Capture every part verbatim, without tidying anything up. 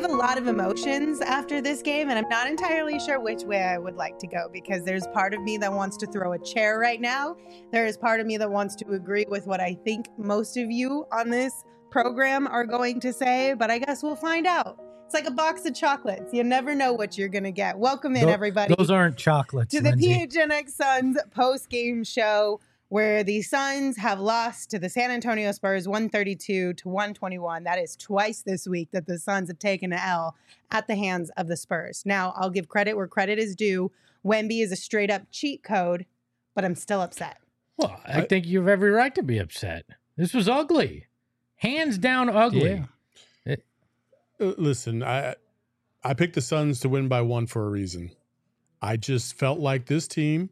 have a lot of emotions after this game, and I'm not entirely sure which way I would like to go, because there's part of me that wants to throw a chair right now. There is part of me that wants to agree with what I think most of you on this program are going to say, but I guess we'll find out. It's like a box of chocolates. You never know what you're going to get. Welcome in, Th- everybody. Those aren't chocolates, to the Lindsay. P H N X Suns post-game show, where the Suns have lost to the San Antonio Spurs one thirty-two to one twenty-one. That is twice this week that the Suns have taken an L at the hands of the Spurs. Now, I'll give credit where credit is due. Wemby is a straight-up cheat code, but I'm still upset. Well, I think you have every right to be upset. This was ugly. Hands down ugly. Yeah. It, uh, listen, I I picked the Suns to win by one for a reason. I just felt like this team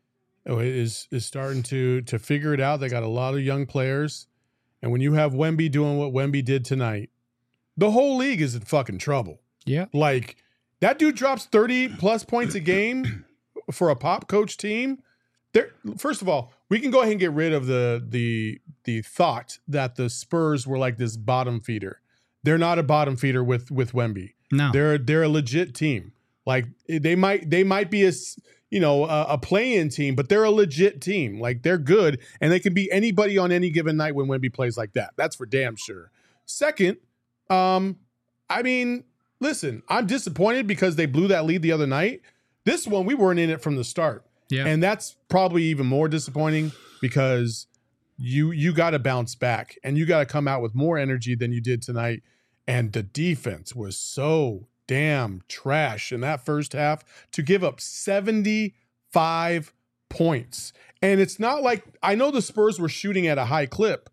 is is starting to to figure it out. They got a lot of young players. And when you have Wemby doing what Wemby did tonight, the whole league is in fucking trouble. Yeah. Like, that dude drops thirty plus points a game for a pop coach team. There, first of all, we can go ahead and get rid of the the the thought that the Spurs were like this bottom feeder. They're not a bottom feeder with with Wemby. No. They're they're a legit team. Like, they might they might be a you know, a, a play-in team, but they're a legit team. Like, they're good, and they can be anybody on any given night when Wemby plays like that. That's for damn sure. Second, um, I mean, listen, I'm disappointed because they blew that lead the other night. This one, we weren't in it from the start. Yeah. And that's probably even more disappointing because you you got to bounce back, and you got to come out with more energy than you did tonight. And the defense was so damn trash in that first half to give up seventy-five points. And it's not like, I know the Spurs were shooting at a high clip,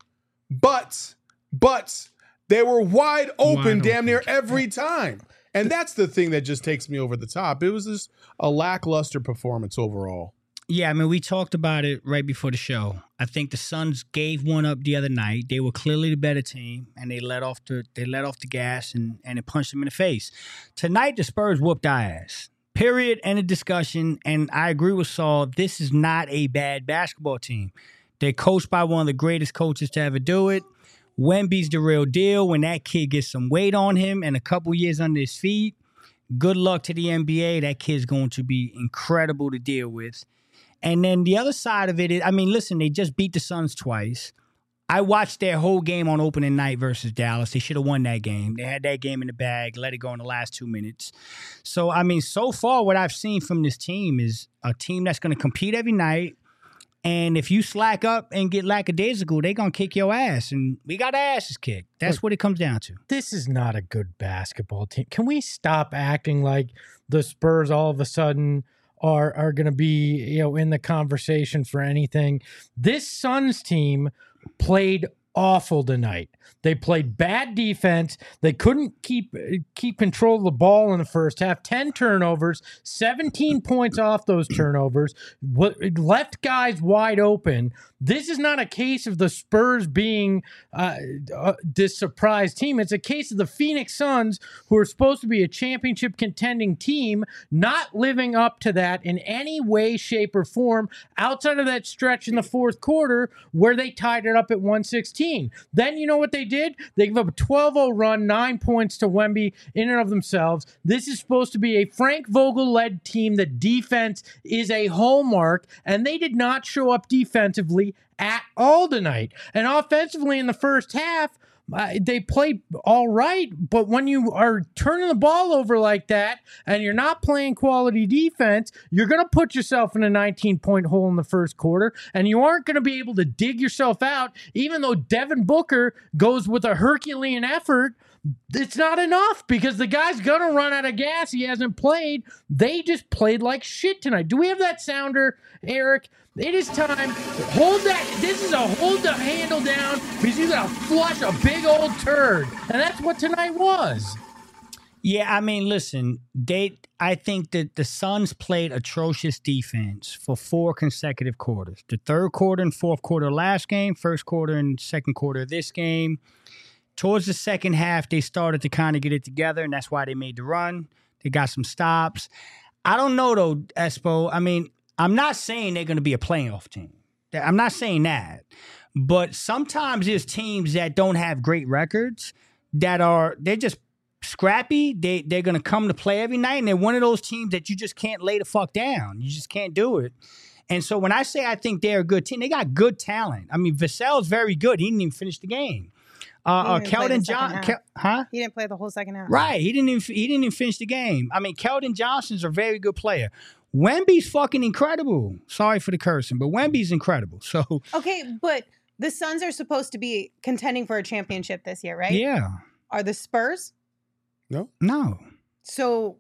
but but they were wide open Wide damn open. near every time. And that's the thing that just takes me over the top. It was just a lackluster performance overall. Yeah, I mean, we talked about it right before the show. I think the Suns gave one up the other night. They were clearly the better team, and they let off the they let off the gas and, and it punched them in the face. Tonight, the Spurs whooped our ass. Period. End of discussion. And I agree with Saul. This is not a bad basketball team. They're coached by one of the greatest coaches to ever do it. Wemby's the real deal. When that kid gets some weight on him and a couple years under his feet, good luck to the N B A. That kid's going to be incredible to deal with. And then the other side of it is, I mean, listen, they just beat the Suns twice. I watched their whole game on opening night versus Dallas. They should have won that game. They had that game in the bag, let it go in the last two minutes. So, I mean, so far what I've seen from this team is a team that's going to compete every night. And if you slack up and get lackadaisical, they're going to kick your ass. And we got our asses kicked. That's Look, what it comes down to. This is not a good basketball team. Can we stop acting like the Spurs all of a sudden are are going to be, you know, in the conversation for anything? This Suns team played awful tonight. They played bad defense. They couldn't keep keep control of the ball in the first half. ten turnovers, seventeen points off those turnovers, left guys wide open. This is not a case of the Spurs being uh, uh, this surprise team. It's a case of the Phoenix Suns, who are supposed to be a championship contending team, not living up to that in any way, shape, or form outside of that stretch in the fourth quarter where they tied it up at one sixteen. Then you know what they did? They gave up a twelve oh run, nine points to Wemby in and of themselves. This is supposed to be a Frank Vogel-led team. The defense is a hallmark, and they did not show up defensively at all tonight. And offensively in the first half, uh, they played all right, but when you are turning the ball over like that and you're not playing quality defense, you're going to put yourself in a nineteen-point hole in the first quarter, and you aren't going to be able to dig yourself out. Even though Devin Booker goes with a Herculean effort, it's not enough because the guy's going to run out of gas. He hasn't played. They just played like shit tonight. Do we have that sounder, Eric? It is time. Hold that. This is a hold the handle down because you got to flush a big old turd. And that's what tonight was. Yeah, I mean, listen, they. I think that the Suns played atrocious defense for four consecutive quarters. The third quarter and fourth quarter of last game, first quarter and second quarter of this game. Towards the second half, they started to kind of get it together, and that's why they made the run. They got some stops. I don't know, though, Espo. I mean, I'm not saying they're going to be a playoff team. I'm not saying that. But sometimes there's teams that don't have great records that are, they're just scrappy. They they're gonna come to play every night, and they're one of those teams that you just can't lay the fuck down. You just can't do it. And so when I say I think they're a good team, they got good talent. I mean, Vassell's very good. He didn't even finish the game. Uh, uh Keldon John, Kel- huh? He didn't play the whole second half. Right. He didn't even he didn't even finish the game. I mean, Keldon Johnson's a very good player. Wemby's fucking incredible. Sorry for the cursing, but Wemby's incredible. So okay, but the Suns are supposed to be contending for a championship this year, right? Yeah. Are the Spurs? No. No. So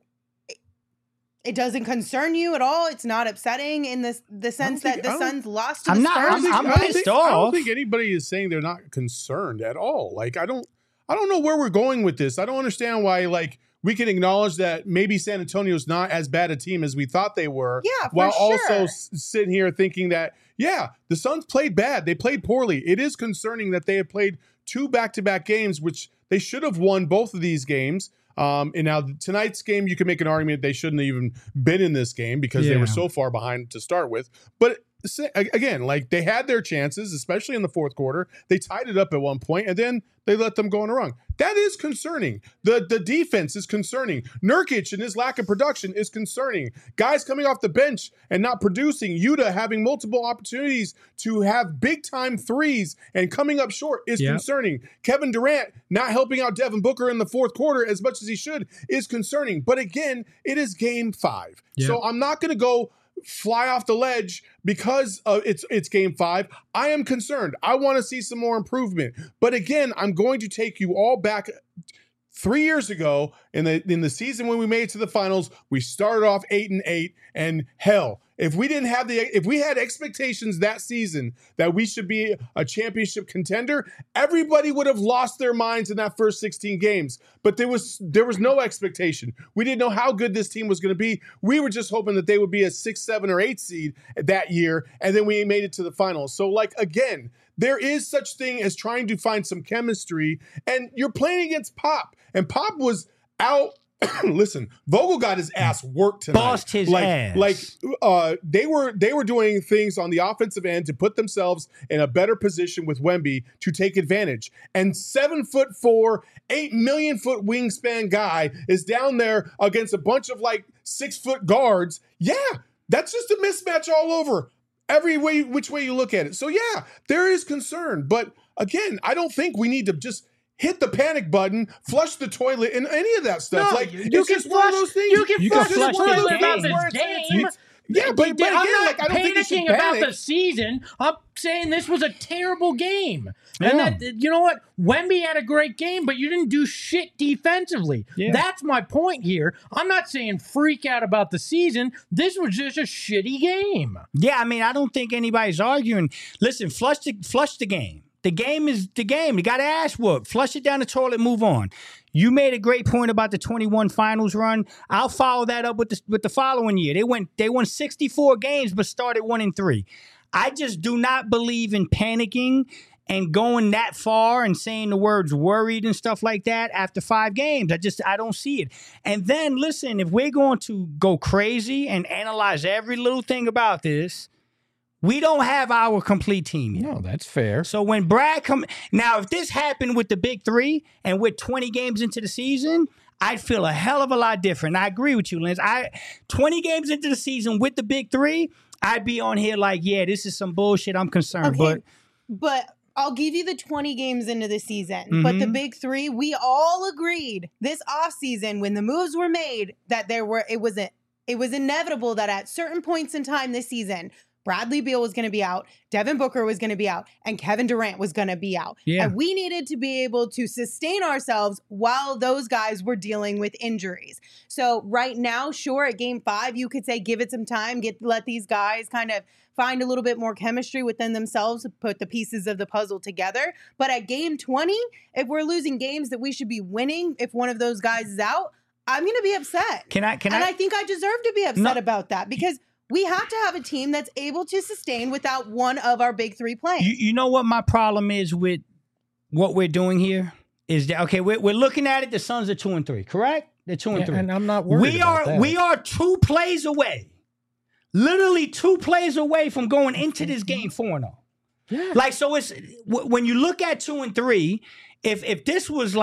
it doesn't concern you at all. It's not upsetting in the the sense think- that the I don't- Suns lost to I'm the not- Spurs. I'm- I'm I don't pissed think, I don't off. think anybody is saying they're not concerned at all. Like I don't, I don't know where we're going with this. I don't understand why. Like we can acknowledge that maybe San Antonio's not as bad a team as we thought they were. Yeah, for while also sure. s- sitting here thinking that yeah, the Suns played bad. They played poorly. It is concerning that they have played two back-to-back games, which they should have won both of these games. Um, and now tonight's game, you can make an argument they shouldn't have even been in this game because they Yeah. were so far behind to start with. But sa- again, like they had their chances, especially in the fourth quarter. They tied it up at one point, and then they let them go on a run. That is concerning. The the defense is concerning. Nurkic and his lack of production is concerning. Guys coming off the bench and not producing. Yuta having multiple opportunities to have big time threes and coming up short is Yep. concerning. Kevin Durant not helping out Devin Booker in the fourth quarter as much as he should is concerning. But again, it is game five. Yep. So I'm not going to go fly off the ledge because uh, it's it's game five. I am concerned. I want to see some more improvement. But again, I'm going to take you all back three years ago in the in the season when we made it to the finals. We started off eight and eight, and hell, if we didn't have the if we had expectations that season that we should be a championship contender, everybody would have lost their minds in that first sixteen games. But there was there was no expectation. We didn't know how good this team was going to be. We were just hoping that they would be a six, seven, or eight seed that year, and then we made it to the finals. So, like again, there is such thing as trying to find some chemistry, and you're playing against Pop, and Pop was out. Listen, Vogel got his ass worked tonight. Bossed his like, ass. Like uh, they were they were doing things on the offensive end to put themselves in a better position with Wemby to take advantage. And seven foot four, eight million foot wingspan guy is down there against a bunch of like six foot guards. Yeah, that's just a mismatch all over. Every way, which way you look at it. So yeah, there is concern. But again, I don't think we need to just hit the panic button, flush the toilet, and any of that stuff. No, like you it's can just one of flush- those things. you can You flush can the flush the toilet about game. this game. Yeah, but, but again, I'm not like I don't think you should panicking about panic. the season. I'm saying this was a terrible game. Yeah. And that, you know what? Wemby had a great game, but you didn't do shit defensively. Yeah. That's my point here. I'm not saying freak out about the season. This was just a shitty game. Yeah, I mean, I don't think anybody's arguing. Listen, flush the flush the game. The game is the game. You got ass whooped. Flush it down the toilet. Move on. You made a great point about the twenty-one finals run. I'll follow that up with the with the following year. They went they won sixty-four games, but started one and three. I just do not believe in panicking and going that far and saying the words worried and stuff like that after five games. I just I don't see it. And then listen, if we're going to go crazy and analyze every little thing about this, we don't have our complete team yet. No, that's fair. So when Brad come now, if this happened with the big three and we're twenty games into the season, I'd feel a hell of a lot different. I agree with you, Lance. I twenty games into the season with the big three, I'd be on here like, yeah, this is some bullshit. I'm concerned, Okay, but but I'll give you the twenty games into the season. But the Mhm. big three, we all agreed this offseason when the moves were made that there were it was a, it was inevitable that at certain points in time this season, Bradley Beal was going to be out, Devin Booker was going to be out, and Kevin Durant was going to be out. Yeah. And we needed to be able to sustain ourselves while those guys were dealing with injuries. So right now, sure, at game five, you could say give it some time, get let these guys kind of find a little bit more chemistry within themselves, put the pieces of the puzzle together. But at game twenty, if we're losing games that we should be winning, if one of those guys is out, I'm going to be upset. can I can and I, I think I deserve to be upset No. about that because we have to have a team that's able to sustain without one of our big three playing. you, you know what my problem is with what we're doing here? Is that okay, we're, we're looking at it, the Suns are two and three, correct? They're two and Yeah, three. and I'm not worried we about are that. we are two plays away. Literally two plays away from going into this game four and oh. Yeah. Like, so it's w- when you look at two and three, if if this was like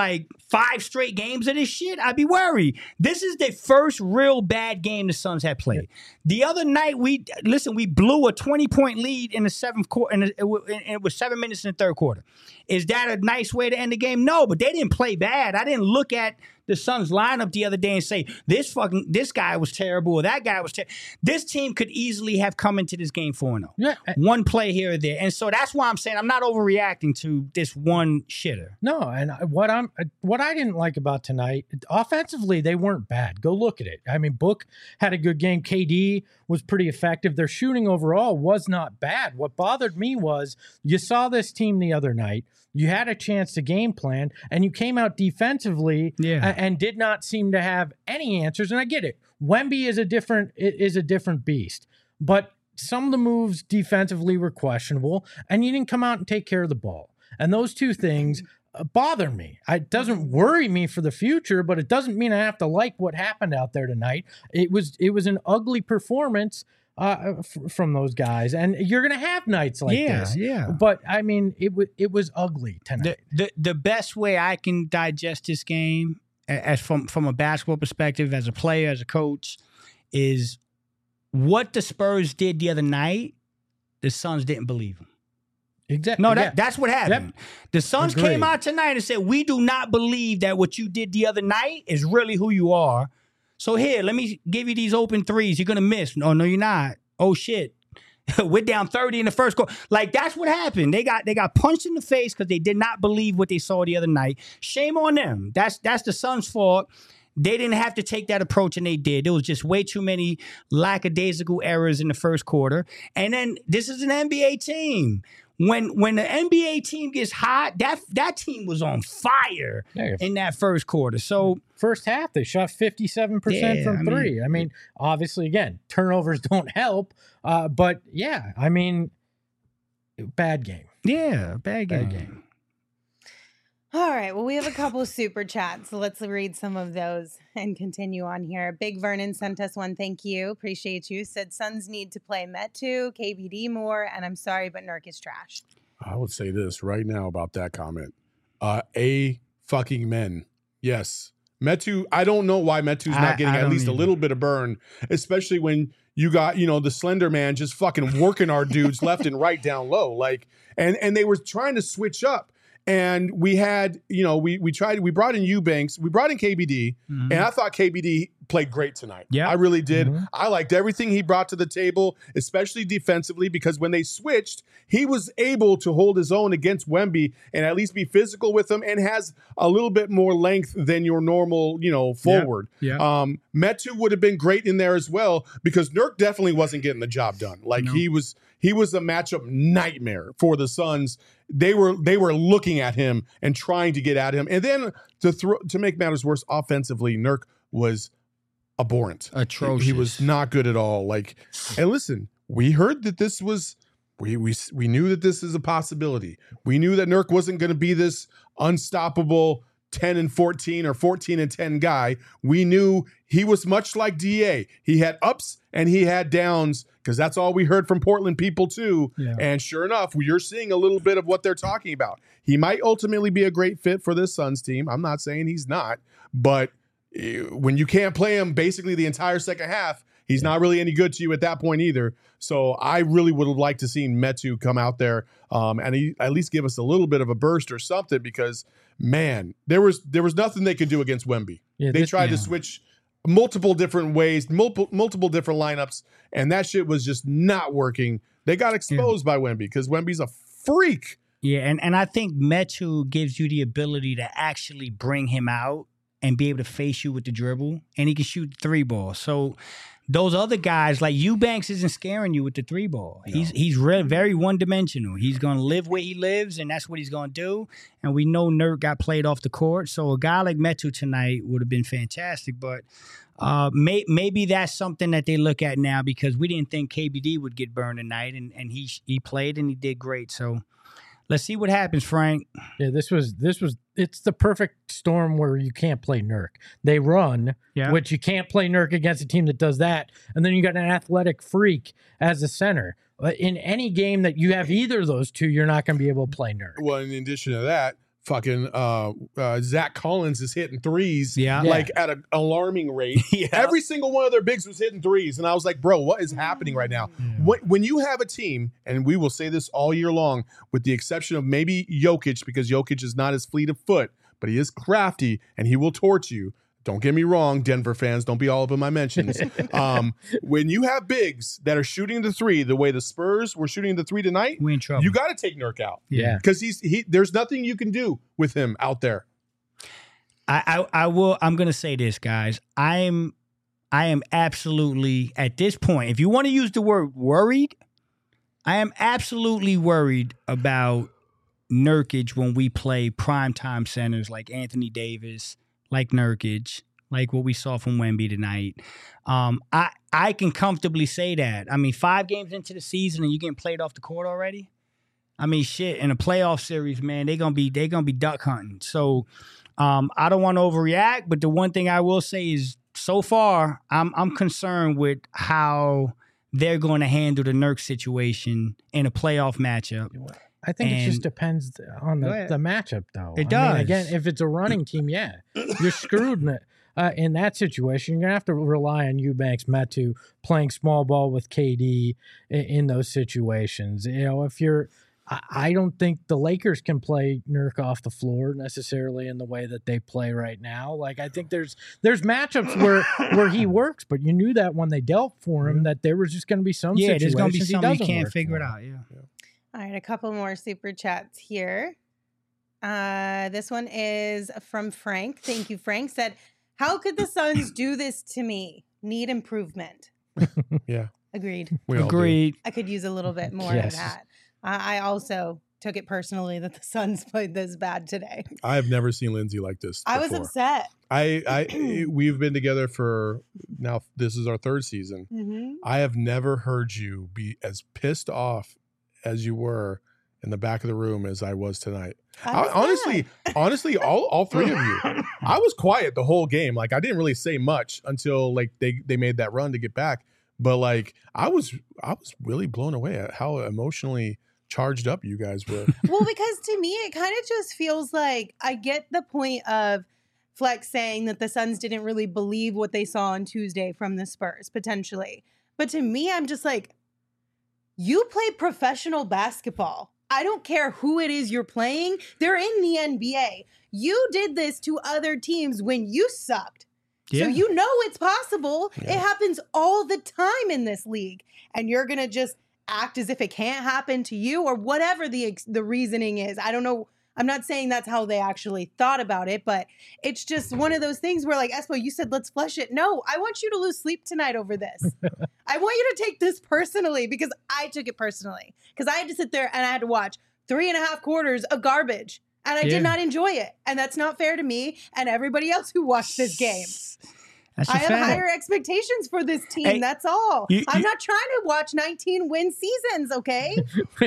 five straight games of this shit, I'd be worried. This is the first real bad game the Suns had played. The other night, we listen, we blew a twenty-point lead in the seventh quarter, and it, it, it was seven minutes in the third quarter. Is that a nice way to end the game? No, but they didn't play bad. I didn't look at the Suns lineup the other day and say, this fucking, this guy was terrible or that guy was terrible. This team could easily have come into this game four and oh. Yeah. One play here or there. And so that's why I'm saying I'm not overreacting to this one shitter. No, and I- what I'm what I didn't like about tonight, offensively, they weren't bad. Go look at it. I mean, Book had a good game. K D was pretty effective. Their shooting overall was not bad. What bothered me was you saw this team the other night. You had a chance to game plan, and you came out defensively Yeah. a- and did not seem to have any answers. And I get it. Wemby is a different is a different beast, but some of the moves defensively were questionable, and you didn't come out and take care of the ball. And those two things uh, bother me. It doesn't worry me for the future, but it doesn't mean I have to like what happened out there tonight. It was it was an ugly performance uh, f- from those guys, and you're gonna have nights like Yeah, this. yeah. But I mean, it was it was ugly tonight. The, the the best way I can digest this game, a- as from from a basketball perspective, as a player, as a coach, is what the Spurs did the other night. The Suns didn't believe them. Exactly. No, that, yeah. that's what happened. The Suns Agreed. came out tonight and said, we do not believe that what you did the other night is really who you are. So here, let me give you these open threes. You're going to miss. No, no, you're not. Oh, shit. We're down thirty in the first quarter. Like, that's what happened. They got they got punched in the face because they did not believe what they saw the other night. Shame on them. That's that's the Suns' fault. They didn't have to take that approach, and they did. There was just way too many lackadaisical errors in the first quarter. And then this is an N B A team. When when the N B A team gets hot, that that team was on fire Yeah. in that first quarter. So First half, they shot fifty-seven percent Yeah, from I mean- three. I mean, obviously, again, turnovers don't help. Uh, but yeah, I mean, bad game. yeah, bad game. Bad game. All right. Well, we have a couple of super chats. So let's read some of those and continue on here. Big Vernon sent us one. Thank you. Appreciate you. Said Suns need to play Metu, K B D more. And I'm sorry, but Nurk is trash. I would say this right now about that comment. Uh, a fucking men. Yes. Metu, I don't know why Metu's I- not getting I at don't least a either. little bit of burn, especially when you got, you know, the slender man just fucking working our dudes left and right down low. Like, and and they were trying to switch up. And we had, you know, we we tried, we brought in Eubanks, we brought in K B D, Mhm. and I thought K B D played great tonight. Yeah. I really did. Mhm. I liked everything he brought to the table, especially defensively, because when they switched, he was able to hold his own against Wemby and at least be physical with him and has a little bit more length than your normal, you know, forward. Yeah. Um, Metu would have been great in there as well because Nurk definitely wasn't getting the job done. Like No. he was, he was a matchup nightmare for the Suns. They were they were looking at him and trying to get at him. And then to throw to make matters worse, offensively, Nurk was abhorrent. Atrocious. He was not good at all. Like, and listen, we heard that this was we we we knew that this is a possibility. We knew that Nurk wasn't going to be this unstoppable ten and fourteen or fourteen and ten guy. We knew he was much like D A. He had ups and he had downs because that's all we heard from Portland people too. Yeah. And sure enough, you're seeing a little bit of what they're talking about. He might ultimately be a great fit for this Suns team. I'm not saying he's not, but eh, when you can't play him basically the entire second half, he's not really any good to you at that point either. So I really would have liked to see Metu come out there um, and he, at least give us a little bit of a burst or something because, man, there was there was nothing they could do against Wemby. Yeah, they this- tried yeah. to switch multiple different ways, multiple multiple different lineups, and that shit was just not working. They got exposed by Wemby because Wemby's a freak. Yeah, and, and I think Metu gives you the ability to actually bring him out and be able to face you with the dribble, and he can shoot the three ball. So those other guys, like Eubanks, isn't scaring you with the three ball. He's he's re- very one dimensional. He's going to live where he lives, and that's what he's going to do. And we know Nurk got played off the court, so a guy like Metu tonight would have been fantastic. But uh, may, maybe that's something that they look at now because we didn't think K B D would get burned tonight, and, and he he played and he did great. So let's see what happens, Frank. Yeah, this was this was it's the perfect storm where you can't play Nurk. They run, Yeah. which you can't play Nurk against a team that does that, and then you got an athletic freak as a center. Uh, In any game that you have either of those two, you're not going to be able to play Nurk. Well, in addition to that, fucking uh, uh, Zach Collins is hitting threes, Yeah. like at an alarming rate. Yeah. Every single one of their bigs was hitting threes, and I was like, bro, what is happening right now? When, when you have a team, and we will say this all year long, with the exception of maybe Jokic, because Jokic is not as fleet of foot, but he is crafty and he will torch you. Don't get me wrong, Denver fans. Don't be all up in my mentions. um, when you have bigs that are shooting the three the way the Spurs were shooting the three tonight, We in trouble. you got to take Nurk out. Yeah. Because he's he. There's nothing you can do with him out there. I, I I will. I'm gonna say this, guys. I'm I am absolutely at this point. If you want to use the word worried, I am absolutely worried about Nurkic when we play primetime centers like Anthony Davis, like Nurkic, like what we saw from Wemby tonight. Um, I I can comfortably say that. I mean, five games into the season and you getting played off the court already. I mean, shit. In a playoff series, man, they gonna be they gonna be duck hunting. So. Um, I don't want to overreact, but the one thing I will say is, so far, I'm I'm concerned with how they're going to handle the Nurk situation in a playoff matchup. I think it just And- depends on Go the, ahead. the matchup, though. It I mean, does. again, if it's a running team, yeah, you're screwed in, it. Uh, in that situation. You're going to have to rely on Eubanks, Metu playing small ball with K D in, in those situations. You know, if you're I I don't think the Lakers can play Nurk off the floor necessarily in the way that they play right now. Like, I think there's there's matchups where where he works, but you knew that when they dealt for him that there was just going to be some Yeah, situations there's going to be he something you doesn't can't work figure for. it out. Yeah. All right, a couple more super chats here. Uh, this one is from Frank. Thank you, Frank. Said, "How could the Suns do this to me? Need improvement." Yeah, Agreed. we all do. Agreed. I could use a little bit more Yes. of that. I I also took it personally that the Suns played this bad today. I have never seen Lindsay like this. I was before. upset. I, I, we've been together for now. This is our third season. Mm-hmm. I have never heard you be as pissed off as you were in the back of the room as I was tonight. I, honestly, honestly, all all three of you. I was quiet the whole game. Like, I didn't really say much until like they they made that run to get back. But like, I was I was really blown away at how emotionally charged up you guys were. Well, because to me, it kind of just feels like I get the point of Flex saying that the Suns didn't really believe what they saw on Tuesday from the Spurs, potentially. But to me, I'm just like, you play professional basketball. I don't care who it is you're playing. They're in the N B A. You did this to other teams when you sucked. Yeah. So you know it's possible. Yeah. It happens all the time in this league. And you're going to just act as if it can't happen to you or whatever the ex- the reasoning is. I don't know. I'm not saying that's how they actually thought about it, but it's just one of those things where, like, Espo, you said, let's flush it. No, I want you to lose sleep tonight over this. I want you to take this personally because I took it personally. Because I had to sit there and I had to watch three and a half quarters of garbage. And I Yeah. did not enjoy it. And that's not fair to me and everybody else who watched this game. That's a I have fact. higher expectations for this team. Hey, that's all. you- I'm you- not trying to watch nineteen win seasons, okay?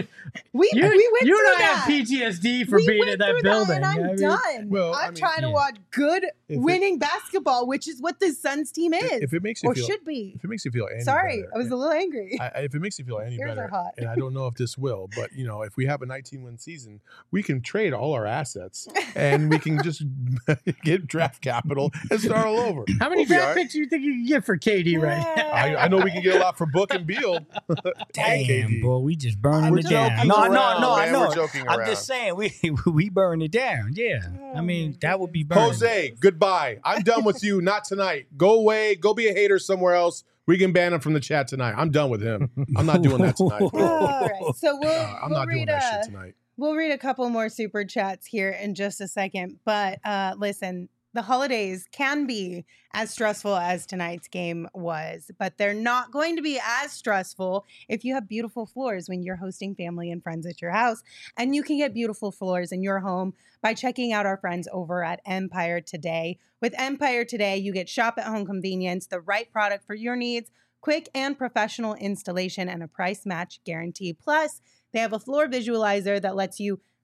We, You, we went you through and I that. have P T S D for we being went in that through building. and I'm I mean, done. Well, I'm I mean, trying to yeah. watch good it- winning basketball, which is what the Suns team is, If it makes you or feel, should be. if it makes you feel any Sorry, better, I was a little angry. I, I- if it makes you feel any Ears are better, hot. and I don't know if this will, but you know, if we have a nineteen win season, we can trade all our assets and we can just get draft capital and start all over. how many We'll be all draft right. picks do you think you can get for K D right now? I, I know we can get a lot for Book and Beal. and K Damn, D. boy, we just burning We're it down. joking No, around, no, no, I man. know. We're joking I'm around. just saying, we we burn it down. Yeah, I mean that would be burning. Jose, goodbye. I'm done with you. Not tonight. Go away. Go be a hater somewhere else. We can ban him from the chat tonight. I'm done with him. I'm not doing that tonight. All right, so we'll, Uh, I'm we'll not doing read that uh, shit tonight. We'll read a couple more super chats here in just a second. But uh, listen, the holidays can be as stressful as tonight's game was, but they're not going to be as stressful if you have beautiful floors when you're hosting family and friends at your house. And you can get beautiful floors in your home by checking out our friends over at Empire Today. With Empire Today, you get shop at home convenience, the right product for your needs, quick and professional installation, and a price match guarantee. Plus, they have a floor visualizer that lets you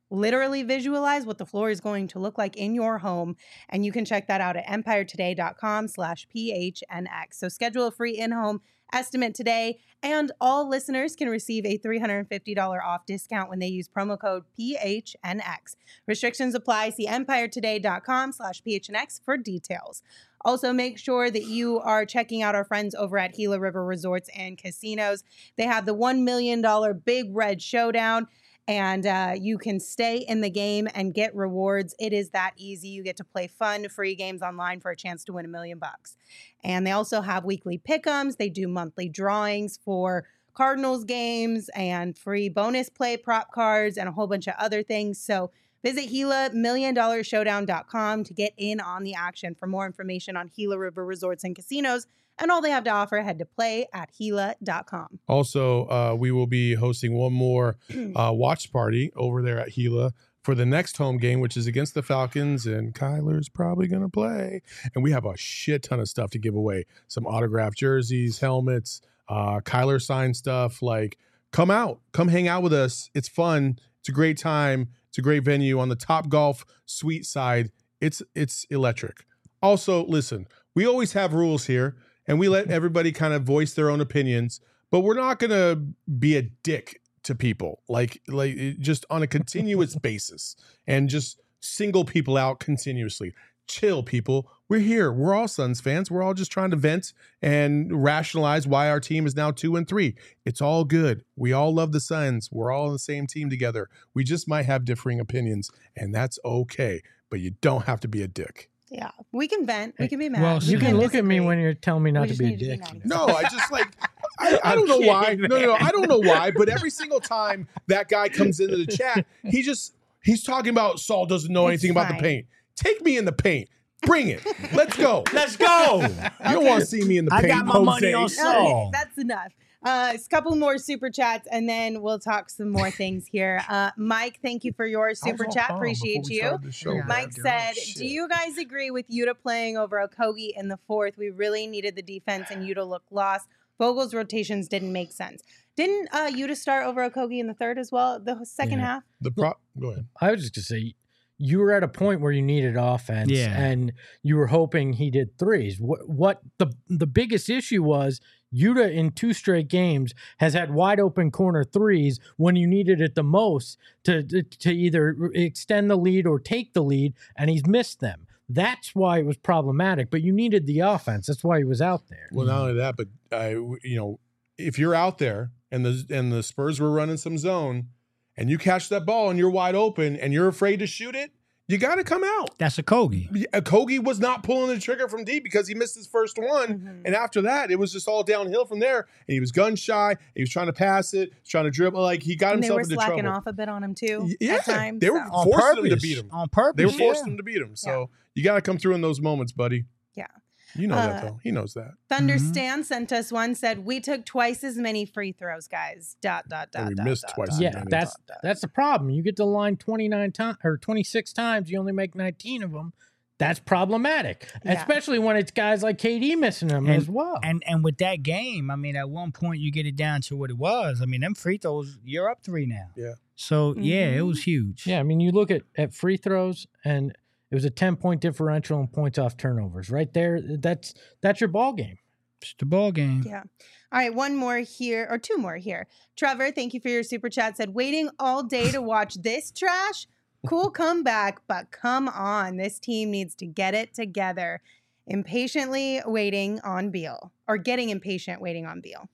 literally visualize what the floor is going to look like in your home. And you can check that out at empiretoday.com slash PHNX. So schedule a free in-home estimate today, and all listeners can receive a three hundred fifty dollars off discount when they use promo code P H N X. Restrictions apply. See empiretoday.com slash PHNX for details. Also, make sure that you are checking out our friends over at Gila River Resorts and Casinos. They have the one million dollars Big Red Showdown, and uh, you can stay in the game and get rewards. It is that easy. You get to play fun, free games online for a chance to win a million bucks. And they also have weekly pick'ems. They do monthly drawings for Cardinals games and free bonus play prop cards and a whole bunch of other things. So visit Gila million dollar showdown dot com to get in on the action. For more information on Gila River Resorts and Casinos and all they have to offer, head to play at Gila dot com. Also, uh, we will be hosting one more uh, watch party over there at Gila for the next home game, which is against the Falcons, and Kyler's probably going to play. And we have a shit ton of stuff to give away. Some autographed jerseys, helmets, uh, Kyler signed stuff. Like, come out. Come hang out with us. It's fun. It's a great time. It's a great venue on the Top Golf Suite side. It's it's electric. Also, listen, we always have rules here, and we let everybody kind of voice their own opinions, but we're not going to be a dick to people, like like just on a continuous basis and just single people out continuously. Chill, people. We're here. We're all Suns fans. We're all just trying to vent and rationalize why our team is now two and three. It's all good. We all love the Suns. We're all on the same team together. We just might have differing opinions, and that's okay. But you don't have to be a dick. Yeah, we can vent. We can be mad. Well, We You can look at me disagree. when you're telling me not We to just be a need to be dick. nice. No, I just like I, I don't know why. No, no, no. I don't know why. But every single time that guy comes into the chat, he just he's talking about Saul doesn't know It's anything about the fine. paint. Take me in the paint. Bring it. Let's go. Let's go. You don't want to see me in the I paint. got my Jose. money on Okay, Saul. that's enough. Uh, a couple more super chats, and then we'll talk some more things here. Uh, Mike, thank you for your super chat. Appreciate you. Mike said, do you guys agree with Yuta playing over Okogie in the fourth? We really needed the defense, and Yuta looked lost. Vogel's rotations didn't make sense. Didn't uh, Yuta start over Okogie in the third as well, the second Yeah. half? The pro- Go ahead. I was just gonna say, you were at a point where you needed offense, Yeah. and you were hoping he did threes. What what the the biggest issue was, Yuta in two straight games has had wide open corner threes when you needed it the most to to, to either extend the lead or take the lead, and he's missed them. That's why it was problematic. But you needed the offense. That's why he was out there. Well, not only that, but I, you know, if you're out there and the and the Spurs were running some zone, and you catch that ball and you're wide open and you're afraid to shoot it, you got to come out. That's a Kogi. Kogi was not pulling the trigger from deep because he missed his first one. Mhm. And after that, it was just all downhill from there. And he was gun shy. He was trying to pass it, trying to dribble. Like, he got And they himself were into slacking trouble. off a bit on him too. Yeah, at times, they were so. On forcing him to purpose. beat him. On purpose. They were forcing yeah. him to beat him. So you got to come through in those moments, buddy. Yeah. You know Uh, that, though. He knows that. Thunderstan sent us one, said, we took twice as many free throws, guys. Dot, dot, dot, And we dot, missed dot, twice dot, as Yeah, dot, many. that's dot, dot. that's the problem. You get the line twenty-nine times or twenty-six times, you only make nineteen of them. That's problematic, Yeah. especially when it's guys like K D missing them And- as well. And and with that game, I mean, at one point you get it down to what it was. I mean, them free throws, you're up three now. Yeah. So yeah, it Mhm. was huge. Yeah, I mean, you look at, at free throws, and it was a ten point differential in points off turnovers. Right there, that's that's your ball game. It's the ball game. Yeah. All right, one more here, or two more here. Trevor, thank you for your super chat. Said, waiting all day to watch this trash. Cool comeback, but come on. This team needs to get it together. Impatiently waiting on Beal, or getting impatient waiting on Beal.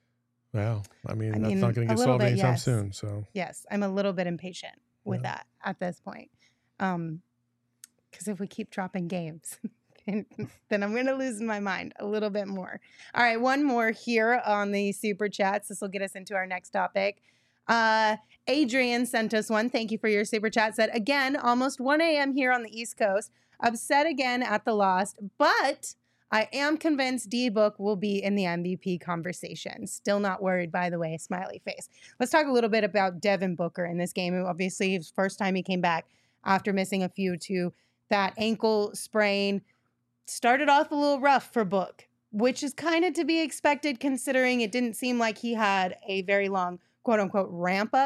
Well, I mean, I that's mean, not going a to get little solved bit, anytime yes. soon. So Yes, I'm a little bit impatient with Yeah. that at this point. Um, because if we keep dropping games, then, then I'm going to lose my mind a little bit more. All right, one more here on the super chats. This will get us into our next topic. Uh, Adrian sent us one. Thank you for your super chat. Said, again, almost one a.m. here on the East Coast. Upset again at the loss, but I am convinced D-Book will be in the M V P conversation. Still not worried, by the way, smiley face. Let's talk a little bit about Devin Booker in this game. Obviously, his first time he came back after missing a few to that ankle sprain. Started off a little rough for Book, which is kind of to be expected considering it didn't seem like he had a very long quote unquote ramp up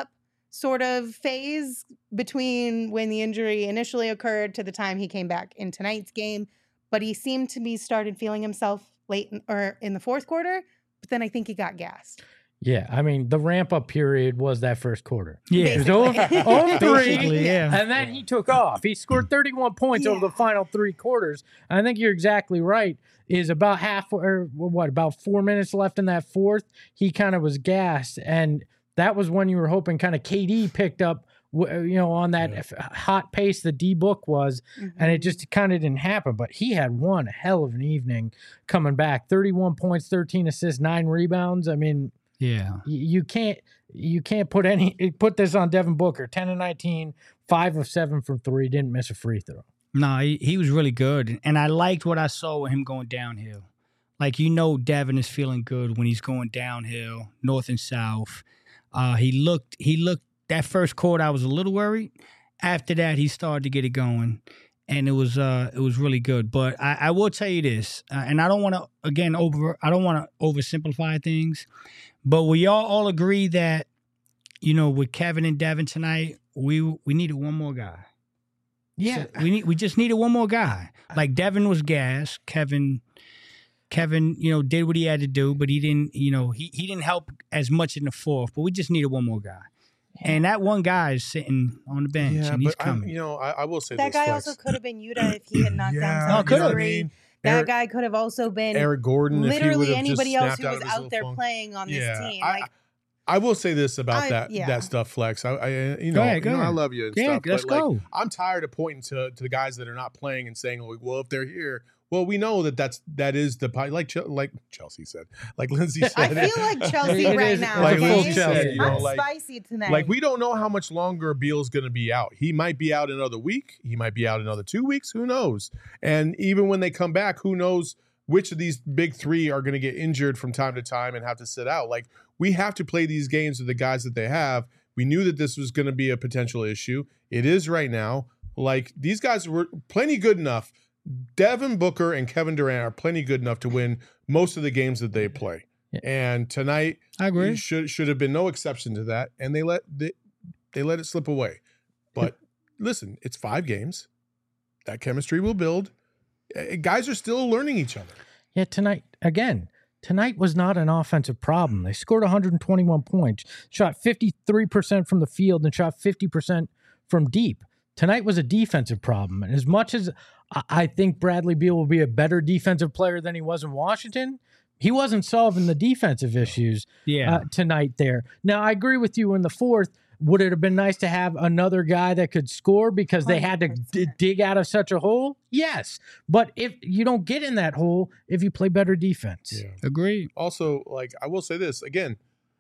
sort of phase between when the injury initially occurred to the time he came back in tonight's game. But he seemed to be started feeling himself late in, or in the fourth quarter. But then I think he got gassed. Yeah, I mean, the ramp-up period was that first quarter. Yeah. It was over, over three, Basically, yeah. and then he took off. He scored thirty-one points Yeah. over the final three quarters. I think you're exactly right. Is about half, or what, about four minutes left in that fourth, he kind of was gassed, and that was when you were hoping kind of K D picked up, you know, on that Yeah. hot pace the D-Book was, Mm-hmm. and it just kind of didn't happen. But he had one hell of an evening coming back. thirty-one points, thirteen assists, nine rebounds. I mean, Yeah. you, you can't you can't put any put this on Devin Booker. ten and nineteen, five of seven from three, didn't miss a free throw. No, he, he was really good. And I liked what I saw with him going downhill. Like, you know, Devin is feeling good when he's going downhill, north and south. Uh, he looked, he looked, that first quarter, I was a little worried. After that, he started to get it going. And it was, uh, it was really good. But I, I will tell you this, uh, and I don't want to, again, over, I don't want to oversimplify things, but we all, all agree that, you know, with Kevin and Devin tonight, we, we needed one more guy. Yeah, So we need, we just needed one more guy. Like Devin was gas. Kevin, Kevin, you know, did what he had to do, but he didn't, you know, he, he didn't help as much in the fourth. But we just needed one more guy, and that one guy is sitting on the bench, Yeah, and he's but I, coming. you know, I, I will say That this, guy Flex. also could have been Yuta if he had knocked Yeah, down No, some could have. three. That Eric- guy could have also been Eric Gordon, if he literally would've anybody just else snapped who out was of his out little there funk. playing on this Yeah, team. I- Like, I will say this about I- that yeah. that stuff, Flex. I, I you Go know, ahead, go you know I ahead. love you and Yeah, stuff. let's but like, go. I'm tired of pointing to to the guys that are not playing and saying, like, well, if they're here, well, we know that that's that is the pi- like Chel- like Chelsea said, like Lindsay said. I feel like Chelsea It right is- now. like it's a okay? full Lindsay Chelsea. said, you know, I'm like spicy tonight. like we don't know how much longer Beal's going to be out. He might be out another week. He might be out another two weeks. Who knows? And even when they come back, who knows which of these big three are going to get injured from time to time and have to sit out. Like, we have to play these games with the guys that they have. We knew that this was going to be a potential issue. It is right now. Like, these guys were plenty good enough. Devin Booker and Kevin Durant are plenty good enough to win most of the games that they play. Yeah. And tonight I agree. should should have been no exception to that, and they let they, they let it slip away. But listen, it's five games. That chemistry will build. Uh, Guys are still learning each other. Yeah, tonight, again, tonight was not an offensive problem. They scored one hundred twenty-one points, shot fifty-three percent from the field, and shot fifty percent from deep. Tonight was a defensive problem. And as much as I- I think Bradley Beal will be a better defensive player than he was in Washington, he wasn't solving the defensive issues Yeah. uh, tonight there. Now, I agree with you in the fourth. Would it have been nice to have another guy that could score because they had to d- one hundred percent. dig out of such a hole? Yes. But if you don't get in that hole if you play better defense. Agreed. Also, like, I will say this again,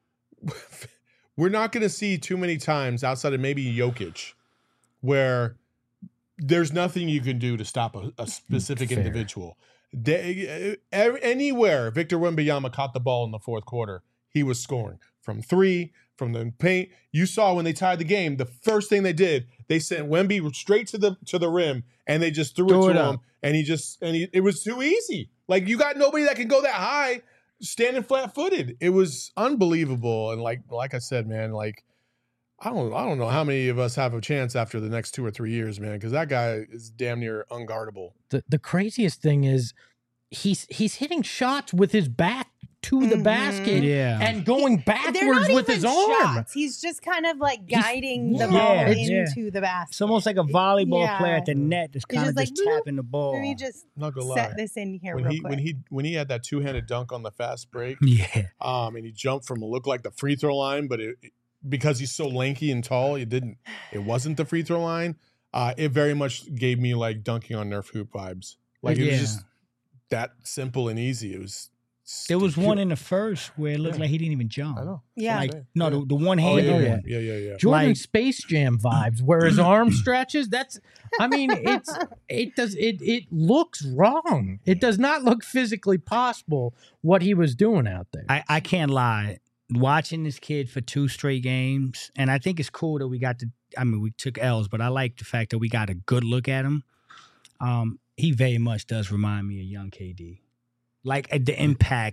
we're not going to see too many times outside of maybe Jokic where there's nothing you can do to stop a, a specific Fair. individual. They, uh, anywhere Victor Wembanyama caught the ball in the fourth quarter, he was scoring from three, from the paint. You saw when they tied the game, the first thing they did, they sent Wemby straight to the to the rim, and they just threw, Threw it it to up. him, and he just and he, it was too easy. Like, you got nobody that can go that high standing flat footed. It was unbelievable, and like like I said, man, like I don't I don't know how many of us have a chance after the next two or three years, man, because that guy is damn near unguardable. The the craziest thing is he's he's hitting shots with his back to the Mhm. basket Yeah. and going They're backwards not with even his arm. shots. He's just kind of like He's- guiding the yeah, ball it's- yeah. into the basket. It's almost like a volleyball Yeah. player at the net that's He's kind of just just, like, bloop. tapping the ball. Let me just Not gonna lie. set this in here When real he quick. when he when he had that two handed dunk on the fast break, Yeah. um, and he jumped from what looked like the free throw line, but it, it- because he's so lanky and tall, it didn't. It wasn't the free throw line. Uh, it very much gave me like dunking on Nerf hoop vibes. Like, it Yeah. was just that simple and easy. It was. There was stupid. one in the first where it looked Yeah. like he didn't even jump. I know. Yeah. Like, Yeah. no, the, the one Oh, handed yeah, yeah. one. yeah, yeah, yeah. Jordan Like- Space Jam vibes, where his arm stretches. That's, I mean, it's it does it it looks wrong. It does not look physically possible what he was doing out there. I, I can't lie. Watching this kid for two straight games, and I think it's cool that we got to, I mean, we took L's, but I like the fact that we got a good look at him. Um, he very much does remind me of young K D. Like, uh, the impact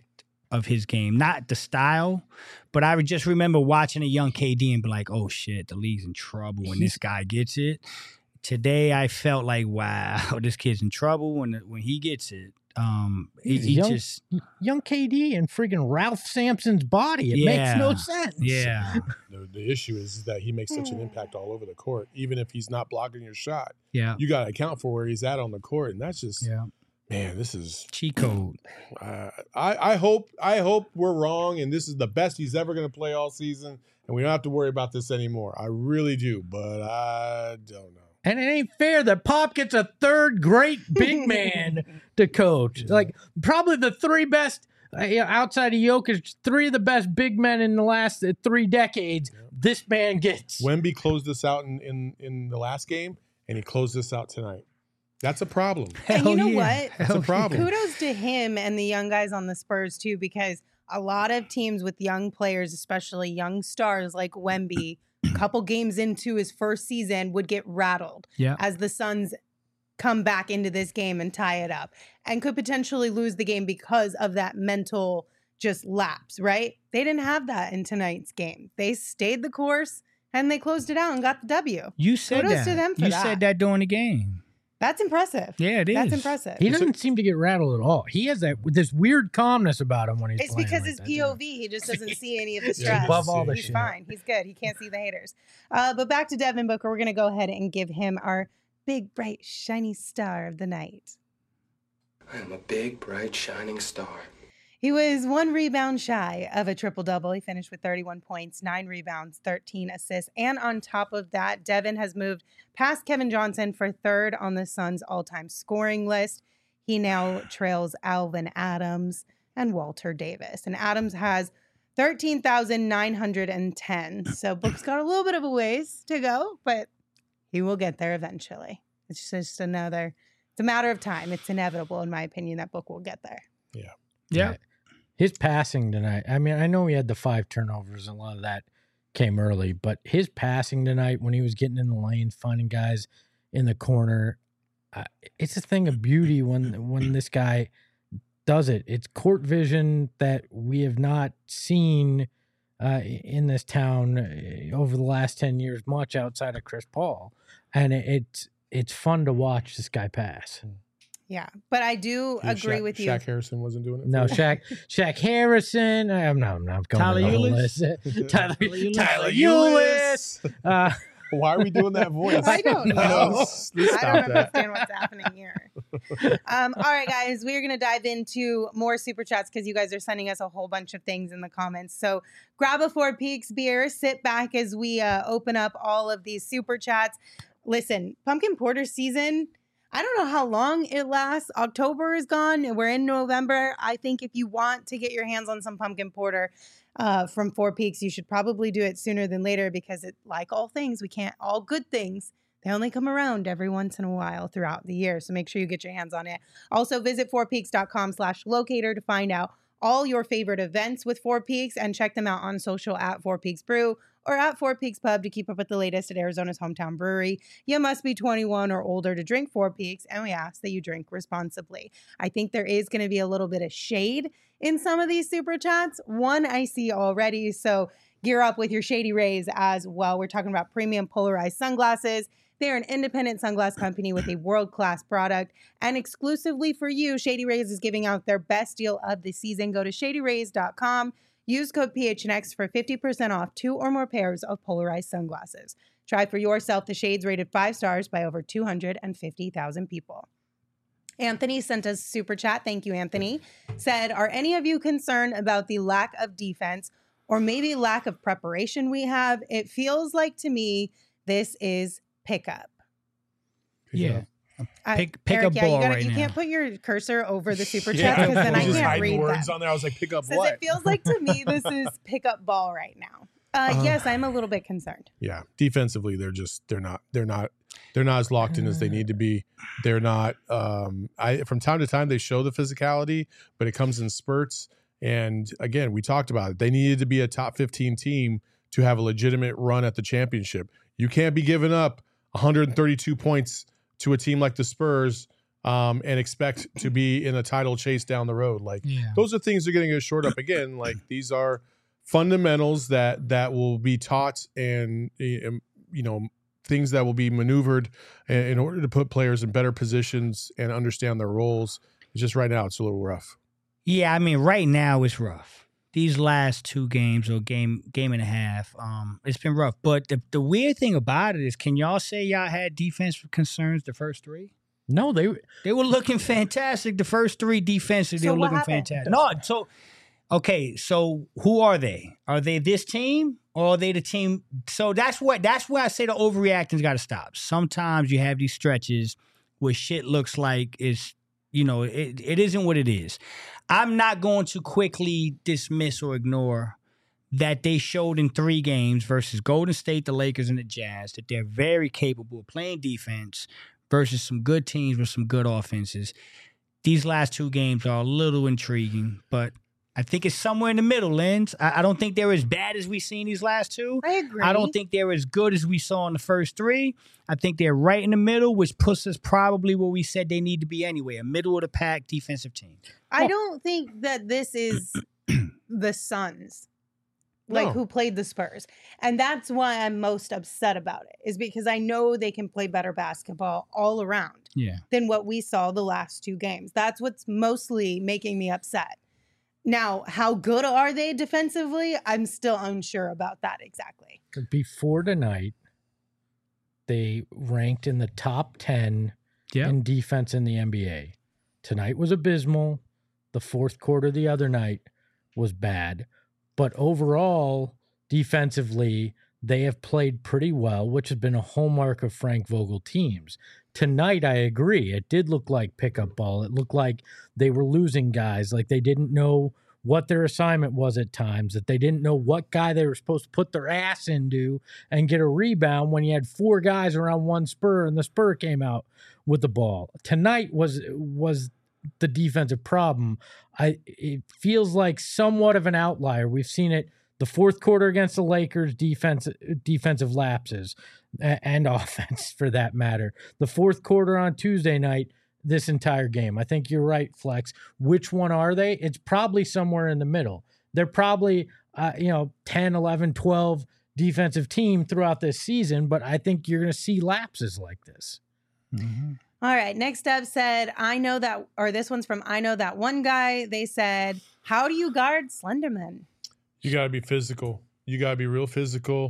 of his game. Not the style, but I would just remember watching a young K D and be like, oh shit, the league's in trouble when this guy gets it. Today I felt like, wow, this kid's in trouble when when he gets it. Um, he, he young, just young K D and friggin' Ralph Sampson's body. It Yeah. makes no sense. yeah, The, the issue is that he makes such an impact all over the court, even if he's not blocking your shot. yeah, You got to account for where he's at on the court, and that's just yeah. man. This is Cheat code. uh, I I hope I hope we're wrong, and this is the best he's ever going to play all season, and we don't have to worry about this anymore. I really do, but I don't know. And it ain't fair that Pop gets a third great big man to coach. Like, probably the three best, uh, you know, outside of Jokic, three of the best big men in the last uh, three decades, this man gets. Wemby closed this out in, in, in the last game, and he closed this out tonight. That's a problem. And you know yeah. what? That's a problem. Kudos to him and the young guys on the Spurs too, because a lot of teams with young players, especially young stars like Wemby, a couple games into his first season would get rattled Yeah. as the Suns come back into this game and tie it up and could potentially lose the game because of that mental just lapse, right? They didn't have that in tonight's game. They stayed the course and they closed it out and got the W. You said Kudos that. to them for you that. said that during the game. That's impressive. Yeah, it is. That's impressive. He doesn't seem to get rattled at all. He has that this weird calmness about him when he's It's playing because like his that, P O too. V, he just doesn't see any of the Yeah, stress. above all the He's shit. fine. He's good. He can't see the haters. Uh, but back to Devin Booker. We're going to go ahead and give him our big, bright, shiny star of the night. I am a big, bright, shining star. He was one rebound shy of a triple-double. He finished with thirty-one points, nine rebounds, thirteen assists. And on top of that, Devin has moved past Kevin Johnson for third on the Suns' all-time scoring list. He now trails Alvin Adams and Walter Davis. And Adams has thirteen thousand nine hundred ten. So Book's got a little bit of a ways to go, but he will get there eventually. It's just another, it's a matter of time. It's inevitable, in my opinion, that Book will get there. Yeah. His passing tonight, I mean, I know he had the five turnovers, and a lot of that came early, but his passing tonight when he was getting in the lanes, finding guys in the corner, uh, it's a thing of beauty when when this guy does it. It's court vision that we have not seen uh, in this town uh, over the last ten years, much outside of Chris Paul. And it, it's it's fun to watch this guy pass. Yeah, but I do Yeah, agree Shaq- with you. Shaq Harrison wasn't doing it. No, for Shaq, Shaq Harrison. I'm not, I'm not going Tyler to the whole Ulis? list. Tyler, Ulis. Tyler Ulis. Uh, Why are we doing that voice? I don't know. Let's- let's I stop don't that. understand what's happening here. Um, all right, guys, we're going to dive into more super chats because you guys are sending us a whole bunch of things in the comments. So grab a Four Peaks beer, sit back as we uh, open up all of these super chats. Listen, pumpkin porter season, I don't know how long it lasts. October is gone and we're in November. I think if you want to get your hands on some pumpkin porter uh, from Four Peaks, you should probably do it sooner than later because it, like all things, we can't, all good things, they only come around every once in a while throughout the year. So make sure you get your hands on it. Also visit fourpeaks.com slash locator to find out all your favorite events with Four Peaks and check them out on social at Four Peaks Brew or at Four Peaks Pub to keep up with the latest at Arizona's hometown brewery. You must be twenty-one or older to drink Four Peaks, and we ask that you drink responsibly. I think there is going to be a little bit of shade in some of these super chats. One I see already, so gear up with your Shady Rays as well. We're talking about premium polarized sunglasses. They're an independent sunglass company with a world-class product. And exclusively for you, Shady Rays is giving out their best deal of the season. Go to shady rays dot com. Use code P H N X for fifty percent off two or more pairs of polarized sunglasses. Try for yourself the shades rated five stars by over two hundred fifty thousand people. Anthony sent us a super chat. Thank you, Anthony. Said, are any of you concerned about the lack of defense or maybe lack of preparation we have? It feels like to me this is pickup. Yeah. I- Pick- pick Eric, a yeah, ball you gotta, right you now. can't put your cursor over the super Yeah, chat because then I was just can't hiding read words them. on there. I was like, pick up Says what? it feels like to me this is pickup ball right now. Uh, Uh, yes, I'm a little bit concerned. Yeah, defensively, they're just they're not they're not they're not as locked in as they need to be. They're not. Um, I from time to time they show the physicality, but it comes in spurts. And again, we talked about it. They needed to be a top fifteen team to have a legitimate run at the championship. You can't be giving up one hundred thirty-two points to a team like the Spurs um, and expect to be in a title chase down the road. Like Yeah. those are things that are getting us short up again. Like these are fundamentals that that will be taught and, and you know things that will be maneuvered in, in order to put players in better positions and understand their roles. It's just right now it's a little rough. Yeah, I mean, right now it's rough. These last two games or game game and a half, um, it's been rough. But the, the weird thing about it is, can y'all say y'all had defensive concerns the first three? No, they They were looking fantastic. The first three defensive, they So were what looking happened? fantastic. No, so okay, so who are they? Are they this team or are they the team? So that's what that's where I say the overreacting's got to stop. Sometimes you have these stretches where shit looks like it's, you know, it, it isn't what it is. I'm not going to quickly dismiss or ignore that they showed in three games versus Golden State, the Lakers, and the Jazz that they're very capable of playing defense versus some good teams with some good offenses. These last two games are a little intriguing, but I think it's somewhere in the middle, Lens. I, I don't think they're as bad as we've seen these last two. I agree. I don't think they're as good as we saw in the first three. I think they're right in the middle, which puts us probably where we said they need to be anyway, a middle of the pack defensive team. I don't think that this is the Suns, like No. who played the Spurs. And that's why I'm most upset about it, is because I know they can play better basketball all around Yeah. than what we saw the last two games. That's what's mostly making me upset. Now, how good are they defensively? I'm still unsure about that exactly. before tonight, they ranked in the top ten Yeah. in defense in the N B A. Tonight was abysmal. The fourth quarter the other night was bad. But overall, defensively, they have played pretty well, which has been a hallmark of Frank Vogel teams. Tonight, I agree. It did look like pickup ball. It looked like they were losing guys, like they didn't know what their assignment was at times, that they didn't know what guy they were supposed to put their ass into and get a rebound when you had four guys around one spur and the spur came out with the ball. Tonight was was the defensive problem. I it feels like somewhat of an outlier. We've seen it the fourth quarter against the Lakers, defense defensive lapses and offense for that matter. The fourth quarter on Tuesday night, this entire game. I think you're right, Flex. Which one are they? It's probably somewhere in the middle. They're probably, uh, you know, ten, eleven, twelve defensive team throughout this season, but I think you're going to see lapses like this. Mm-hmm. All right. Next up said, I know that, or this one's from I know that one guy. They said, how do you guard Slenderman? You got to be physical. You got to be real physical.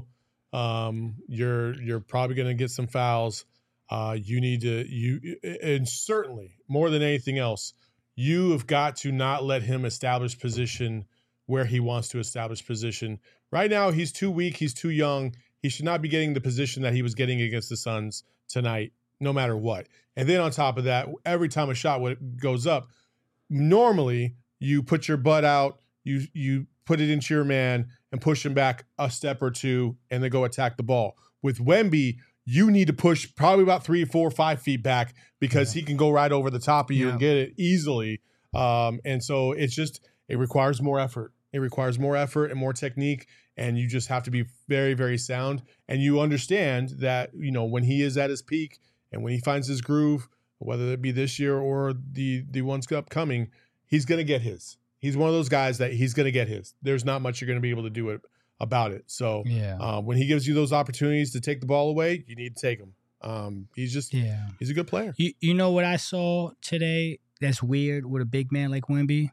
Um, you're you're probably going to get some fouls. Uh, you need to you and certainly more than anything else, you have got to not let him establish position where he wants to establish position. Right now, he's too weak. He's too young. He should not be getting the position that he was getting against the Suns tonight, no matter what. And then on top of that, every time a shot goes up, normally you put your butt out, you you put it into your man and push him back a step or two and then go attack the ball. With Wemby, you need to push probably about three, four, five feet back because yeah. he can go right over the top of you yeah. and get it easily. Um, and so it's just, it requires more effort. It requires more effort and more technique. And you just have to be very, very sound. And you understand that, you know, when he is at his peak and when he finds his groove, whether it be this year or the, the ones upcoming, he's going to get his. He's one of those guys that he's going to get his. There's not much you're going to be able to do it about it. So yeah. uh, when he gives you those opportunities to take the ball away, you need to take them. Um, he's just, yeah. he's a good player. You, you know what I saw today that's weird with a big man like Wemby?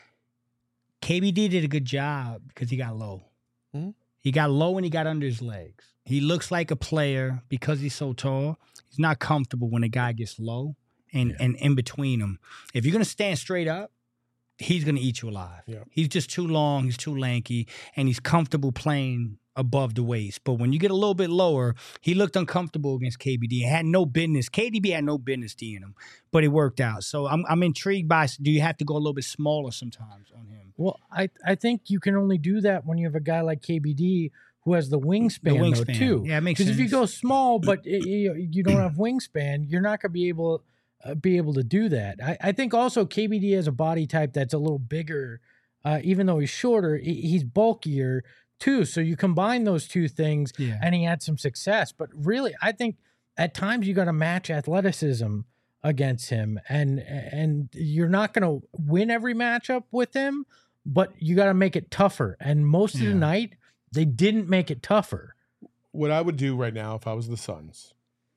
K B D did a good job because he got low. Mm-hmm. He got low and he got under his legs. He looks like a player because he's so tall. He's not comfortable when a guy gets low and, yeah. and in between them. If you're going to stand straight up, he's going to eat you alive. Yeah. He's just too long, he's too lanky, and he's comfortable playing above the waist. But when you get a little bit lower, he looked uncomfortable against K B D. He had no business. K D B had no business D'ing him, but it worked out. So I'm I'm intrigued by, do you have to go a little bit smaller sometimes on him? Well, I, I think you can only do that when you have a guy like K B D who has the wingspan, the wingspan. Though, too. Yeah, it makes sense. Because if you go small, but you, you don't have wingspan, you're not going to be able uh, be able to do that. I, I think also K B D has a body type that's a little bigger, uh, even though he's shorter. He's bulkier too. So you combine those two things, yeah. and he had some success. But really, I think at times you got to match athleticism against him, and and you're not going to win every matchup with him, but you got to make it tougher. And most Yeah. of the night, they didn't make it tougher. What I would do right now if I was the Suns,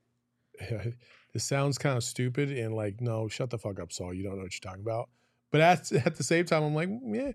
this sounds kind of stupid and like, no, shut the fuck up, Saul. You don't know what you're talking about. But at, at the same time, I'm like, yeah,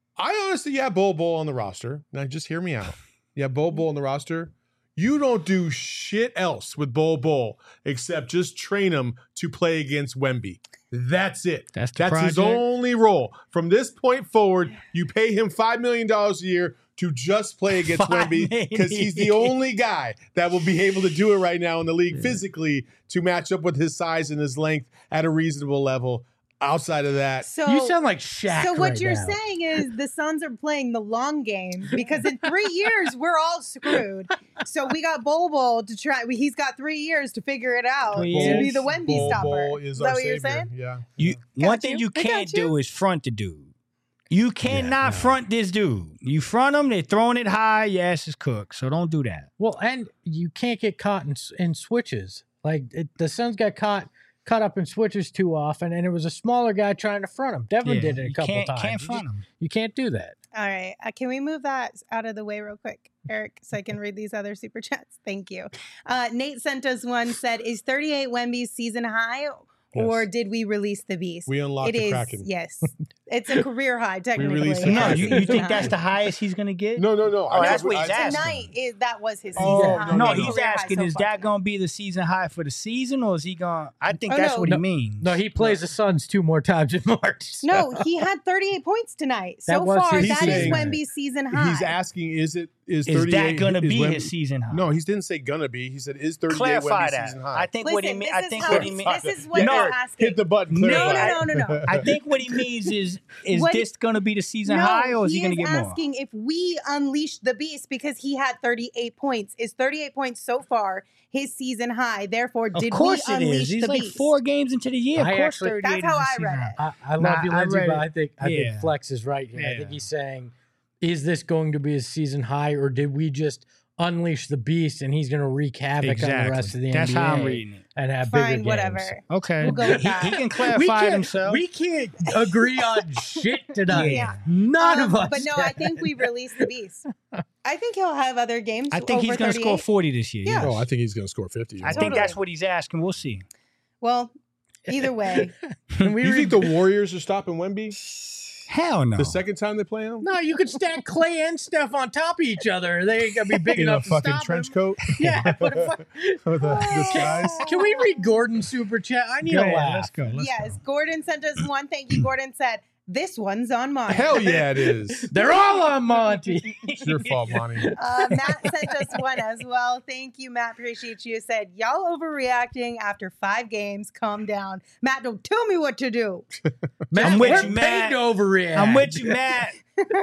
I honestly, yeah, Bol Bol on the roster. Now just hear me out. Yeah, Bol Bol on the roster. You don't do shit else with Bol Bol except just train him to play against Wemby. That's it. That's the That's his project. only role. From this point forward, you pay him five million dollars a year to just play against Five Wemby because he's the only guy that will be able to do it right now in the league physically to match up with his size and his length at a reasonable level. Outside of that, So You sound like Shaq. So what right you're now. saying is the Suns are playing the long game because in three years we're all screwed. So we got Bol Bol to try. He's got three years to figure it out Three to be years. the Wemby Bol stopper. Bol Is is that our what you're savior. saying? Yeah. You Got one thing you. you I got can't you. do is front the dude. You cannot no. front this dude. You front him, they're throwing it high, your ass is cooked. So don't do that. Well, and you can't get caught in, in switches. Like it, the Suns got caught caught up in switches too often, and it was a smaller guy trying to front him. Devin Yeah, did it a you couple can't, times. Can't You front just- him. You can't do that. All right. Uh, can we move that out of the way real quick, Eric, so I can read these other super chats? Thank you. Uh, Nate sent us one, said, is thirty-eight Wemby's season high or Yes. did we release the beast? We unlocked It the is, Kraken. yes. It's a career high, technically. released the No, Kraken. you, you think that's the highest he's gonna get? No, no, no. Oh, I- that's I- what he's I- asking. Tonight, is, that was his season Oh, high. no, No, no, he's Career high asking, so is far that tonight. gonna be the season high for the season, or is he gonna? I think Oh, that's no. what No, he means. No, he plays the Suns two more times in March. so- No, he had thirty-eight points tonight. That So was far, his that is season high. Wemby's season high. He's asking, is it is is thirty-eight that gonna is be Wemby- his season high? No, he didn't say gonna be. He said is thirty-eight Clarify Wemby's that. season high. I think what he Listen, mean. this I is think how what he it's- means. this is what No, they're Eric, asking. hit the button. No, clarify. no, no, no, no. I think what he means is is What- this gonna be the season no, high, or is he, he gonna is get more? asking if we unleash the beast because he had thirty-eight points. Is thirty-eight points so far his season high? Therefore, Of did course we it unleash is. He's the like beast? four games into the year. Of I course, actually- thirty-eight That's how is I the read season it. high. I, I love Nah, you, I Lindsay, read but it. I think I Yeah. think Flex is right here. I Yeah. think he's saying, is this going to be his season high, or did we just unleash the beast and he's going to wreak havoc on the rest of the That's N B A how I'm reading it. and have bigger Fine, games? whatever. Okay, We'll go with he, that. he can We clarify can't, himself. we can't agree on shit tonight. Yeah. None Um, of us. But no, I think we released the beast. I think he'll have other games. I think over he's going to score thirty-eight. forty this year. Yeah. yes. Oh, I think he's going to score fifty. I think Totally. that's what he's asking. We'll see. Well, either way, Can we You read- think the Warriors are stopping Wemby Hell no. the second time they play him No, you could stack Clay and Steph on top of each other. They ain't gonna be big in a enough to fucking stop trench him. coat Yeah, put a fu- with a disguise? Can we read Gordon's super chat? I need Go a ahead, laugh. Let's go. Let's yes, go. Gordon sent us one. Thank you. Gordon said, this one's on mine. Hell yeah, it is. They're all on Monty. It's your fault, Monty. Uh, Matt sent us one as well. Thank you, Matt. Appreciate you. Said, y'all overreacting after five games. Calm down. Matt, don't tell me what to do. Matt, I'm with we're you, paid Matt. to overreact. I'm with you, Matt.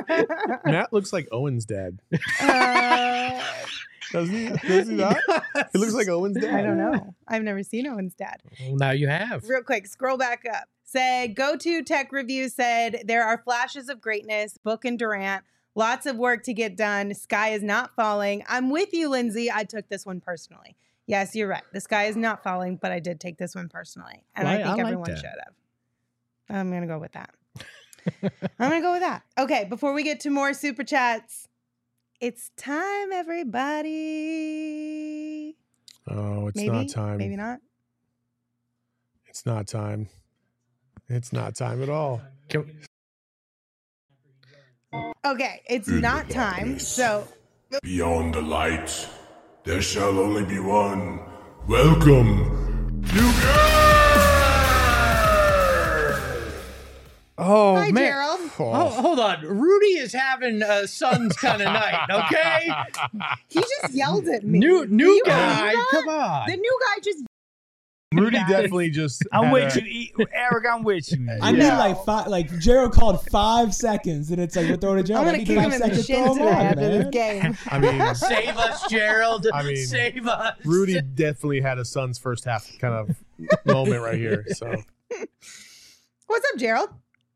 Matt looks like Owen's dad. Uh, Doesn't he? Does he not? He looks like Owen's dad. I don't know. I've never seen Owen's dad. Well, now you have. Real quick, scroll back up. Said, go to Tech Review said, there are flashes of greatness, Book and Durant, lots of work to get done. Sky is not falling. I'm with you, Lindsay. I took this one personally. Yes, you're right. The sky is not falling, but I did take this one personally. And Well, I I- think I like everyone that. should have. I'm going to go with that. I'm going to go with that. Okay, before we get to more super chats, it's time, everybody. Oh, it's Maybe, not time. maybe not. It's not time. It's not time at all. Can- Okay, it's In the not time. darkness. So Beyond the light, there shall only be one. Welcome to oh hi, man. Gerald. Oh, hold on. Rudy is having a Suns kind of night. Okay. He just yelled at me. New Do new you guy. believe that? Come on. The new guy just. Rudy Guys. definitely just. I'm had with a- you, E- Eric. I'm with you, man. I need like five. Like Gerald called five seconds, and it's like we're throwing a I'm Gerald. I gonna need kick five him in the seconds to shin throw him today on, after this man. game. I mean, Save us, Gerald. I mean, Save us. Rudy definitely had a Suns first half kind of moment right here. So What's up, Gerald?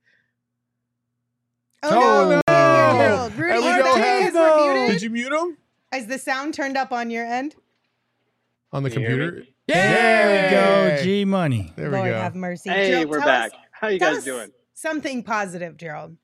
Oh, Oh, no, no. Can't hear Gerald. And Rudy, we is don't that have- because we're muted? did you mute him Is the sound turned up on your end? on the Can you hear computer? There we go, Yay! G Money. There we Lord go. have mercy. Hey, Gerald, we're tell back. us- How you tell guys us doing? Something positive, Gerald.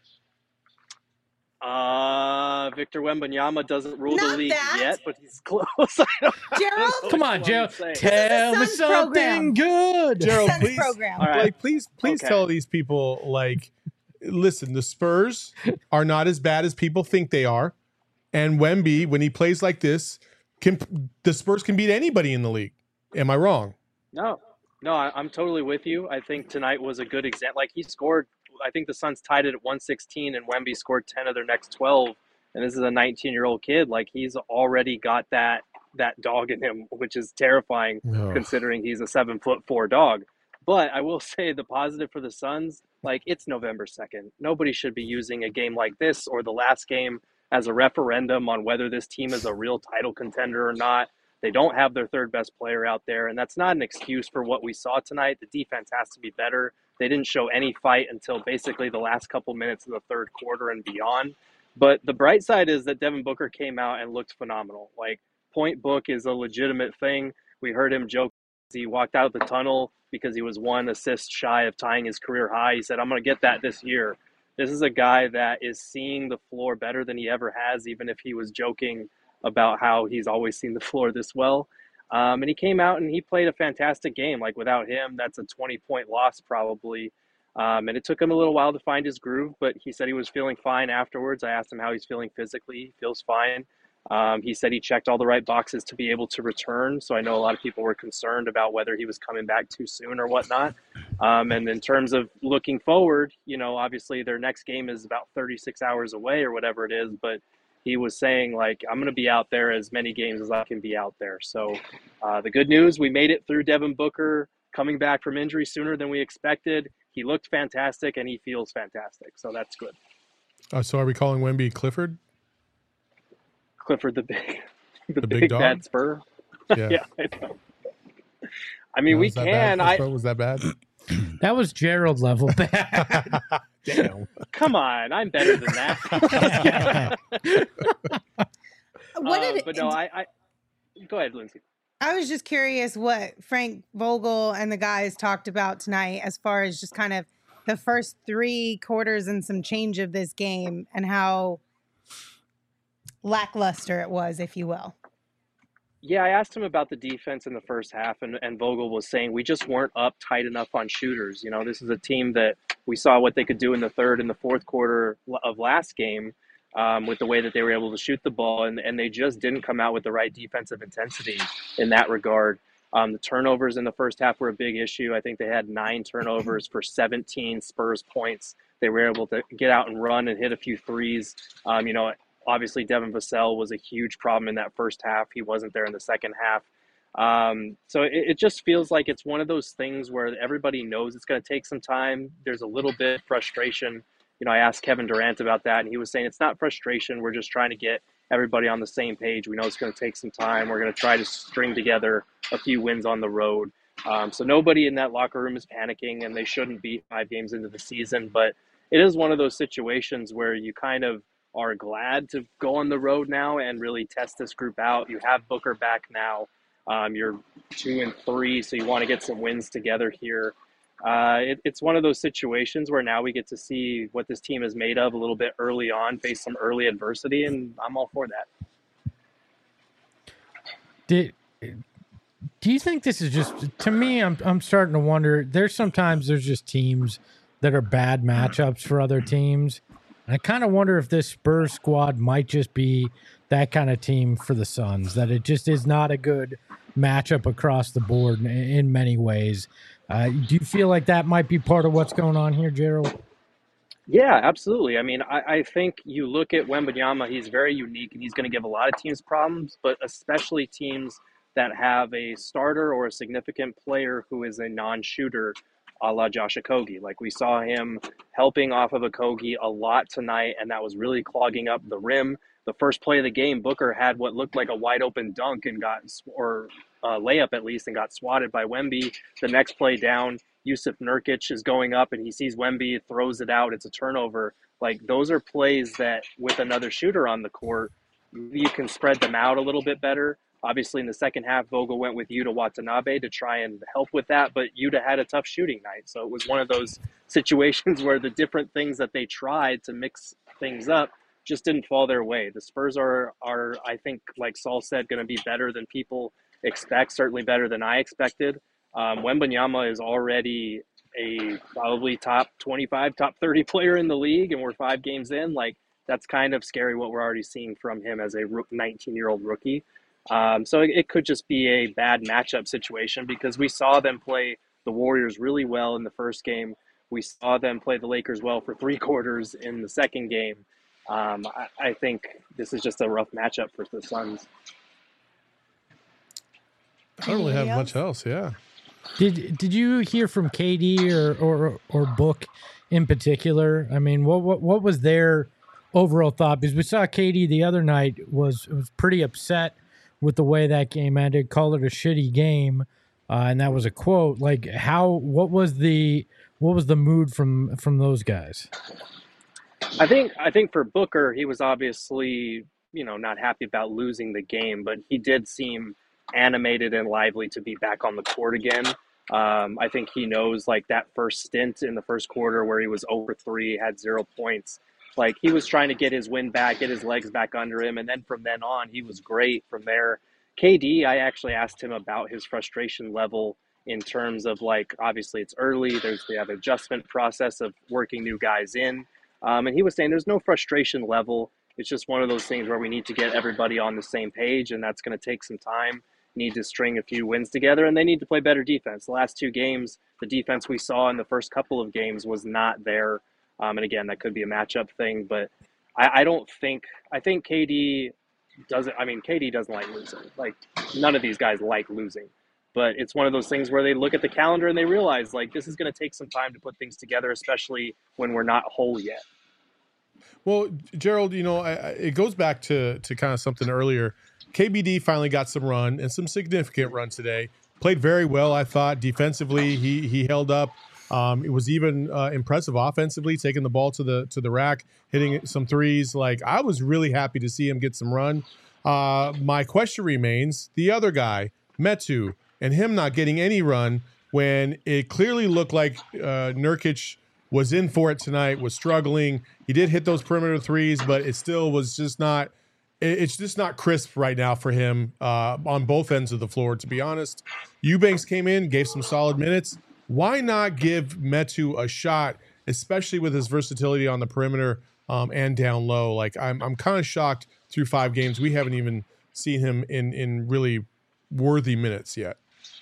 Uh, Victor Wembanyama doesn't rule Not the league that. yet, but he's close. I don't, I don't Gerald? know Come what on, you want Gerald. me to say. Tell me Suns something program. good. Gerald, Suns please, program. All right. like, please, please Okay. tell these people, like, listen, the Spurs are not as bad as people think they are, and Wemby, when he plays like this, can the Spurs can beat anybody in the league? Am I wrong? No, no, I, I'm totally with you. I think tonight was a good example. Like he scored, I think the Suns tied it at one sixteen, and Wemby scored ten of their next twelve. And this is a nineteen-year-old kid. Like he's already got that that dog in him, which is terrifying Oh. considering he's a seven foot four dog. But I will say the positive for the Suns, like it's November second. Nobody should be using a game like this or the last game as a referendum on whether this team is a real title contender or not. They don't have their third best player out there, and that's not an excuse for what we saw tonight. The defense has to be better. They didn't show any fight until basically the last couple minutes of the third quarter and beyond. But the bright side is that Devin Booker came out and looked phenomenal. Like, point book is a legitimate thing. We heard him joke as he walked out the tunnel because he was one assist shy of tying his career high. He said, I'm going to get that this year. This is a guy that is seeing the floor better than he ever has, even if he was joking about how he's always seen the floor this well. Um, and he came out and he played a fantastic game. Like, without him, that's a twenty-point loss probably. Um, and it took him a little while to find his groove, but he said he was feeling fine afterwards. I asked him how he's feeling physically. He feels fine. Um, he said he checked all the right boxes to be able to return. So I know a lot of people were concerned about whether he was coming back too soon or whatnot. Um, and in terms of looking forward, you know, obviously their next game is about thirty-six hours away or whatever it is. But he was saying, like, I'm going to be out there as many games as I can be out there. So uh, the good news, we made it through Devin Booker coming back from injury sooner than we expected. He looked fantastic, and he feels fantastic, so that's good. Uh, so are we calling Wemby Clifford? Clifford the big, the, The big, big dog? bad Spur. Yeah. Yeah, I know. I mean, No, we was that can. bad, I Clifford? Was that bad? That was Gerald level bad. Damn. come on. I'm better than that. What Uh, did but no, I, I. Go ahead, Lindsay. I was just curious what Frank Vogel and the guys talked about tonight as far as just kind of the first three quarters and some change of this game and how lackluster it was, if you will. Yeah, I asked him about the defense in the first half, and, and Vogel was saying we just weren't up tight enough on shooters. You know, this is a team that we saw what they could do in the third and the fourth quarter of last game um, with the way that they were able to shoot the ball, and, and they just didn't come out with the right defensive intensity in that regard. Um, the turnovers in the first half were a big issue. I think they had nine turnovers for seventeen Spurs points. They were able to get out and run and hit a few threes. Um, you know, obviously Devin Vassell was a huge problem in that first half. He wasn't there in the second half. Um, so it, it just feels like it's one of those things where everybody knows it's going to take some time. There's a little bit of frustration. You know, I asked Kevin Durant about that, and he was saying it's not frustration. We're just trying to get everybody on the same page. We know it's going to take some time. We're going to try to string together a few wins on the road. Um, so nobody in that locker room is panicking, and they shouldn't be five games into the season. But it is one of those situations where you kind of are glad to go on the road now and really test this group out. You have Booker back now. Um, you're two and three, so you want to get some wins together here. Uh, it, it's one of those situations where now we get to see what this team is made of a little bit early on, face some early adversity, and I'm all for that. Did do you think this is just, to me, I'm I'm starting to wonder, there's sometimes there's just teams that are bad matchups for other teams. And I kind of wonder if this Spurs squad might just be that kind of team for the Suns, that it just is not a good matchup across the board in, in many ways. Uh, do you feel like that might be part of what's going on here, Gerald? Yeah, absolutely. I mean, I, I think you look at Wembanyama, he's very unique, and he's going to give a lot of teams problems, but especially teams that have a starter or a significant player who is a non-shooter, a la Josh Okogie. Like, we saw him helping off of Okogie a lot tonight, and that was really clogging up the rim. The first play of the game, Booker had what looked like a wide open dunk and got, or uh, layup at least, and got swatted by Wemby. The next play down, Yusuf Nurkic is going up and he sees Wemby, throws it out. It's a turnover. Like, those are plays that with another shooter on the court, you can spread them out a little bit better. Obviously, in the second half, Vogel went with Yuta Watanabe to try and help with that, but Yuta had a tough shooting night. So it was one of those situations where the different things that they tried to mix things up just didn't fall their way. The Spurs are, are I think, like Saul said, going to be better than people expect, certainly better than I expected. Um, Wembanyama is already a probably top twenty-five, top thirty player in the league, and we're five games in. Like, that's kind of scary what we're already seeing from him as a nineteen-year-old rookie. Um, so it, it could just be a bad matchup situation because we saw them play the Warriors really well in the first game. We saw them play the Lakers well for three quarters in the second game. Um, I, I think this is just a rough matchup for the Suns. I don't really have much else. Yeah. Did Did you hear from K D or or or Book in particular? I mean, what what what was their overall thought? Because we saw K D the other night was was pretty upset with the way that game ended, called it a shitty game, uh, and that was a quote. Like, how? What was the what was the mood from from those guys? I think I think for Booker, he was obviously, you know, not happy about losing the game, but he did seem animated and lively to be back on the court again. Um, I think he knows, like, that first stint in the first quarter where he was over three, had zero points. Like, he was trying to get his wind back, get his legs back under him, and then from then on, he was great from there. K D, I actually asked him about his frustration level in terms of, like, obviously it's early. There's the adjustment process of working new guys in. Um, and he was saying there's no frustration level. It's just one of those things where we need to get everybody on the same page, and that's going to take some time. Need to string a few wins together, and they need to play better defense. The last two games, the defense we saw in the first couple of games was not there. Um, and again, that could be a matchup thing, but I, I don't think, I think K D doesn't, I mean, K D doesn't like losing. Like, none of these guys like losing, but it's one of those things where they look at the calendar and they realize, like, this is going to take some time to put things together, especially when we're not whole yet. Well, Gerald, you know, I, I, it goes back to, to kind of something earlier. K B D finally got some run and some significant run today. Played very well, I thought. Defensively, he he held up. Um, it was even uh, impressive offensively, taking the ball to the to the rack, hitting some threes. Like, I was really happy to see him get some run. Uh, my question remains, the other guy, Metu, and him not getting any run when it clearly looked like uh, Nurkic was in for it tonight, was struggling. He did hit those perimeter threes, but it still was just not – it's just not crisp right now for him uh, on both ends of the floor, to be honest. Eubanks came in, gave some solid minutes. Why not give Metu a shot, especially with his versatility on the perimeter um, and down low? Like, I'm I'm kind of shocked through five games we haven't even seen him in in really worthy minutes yet.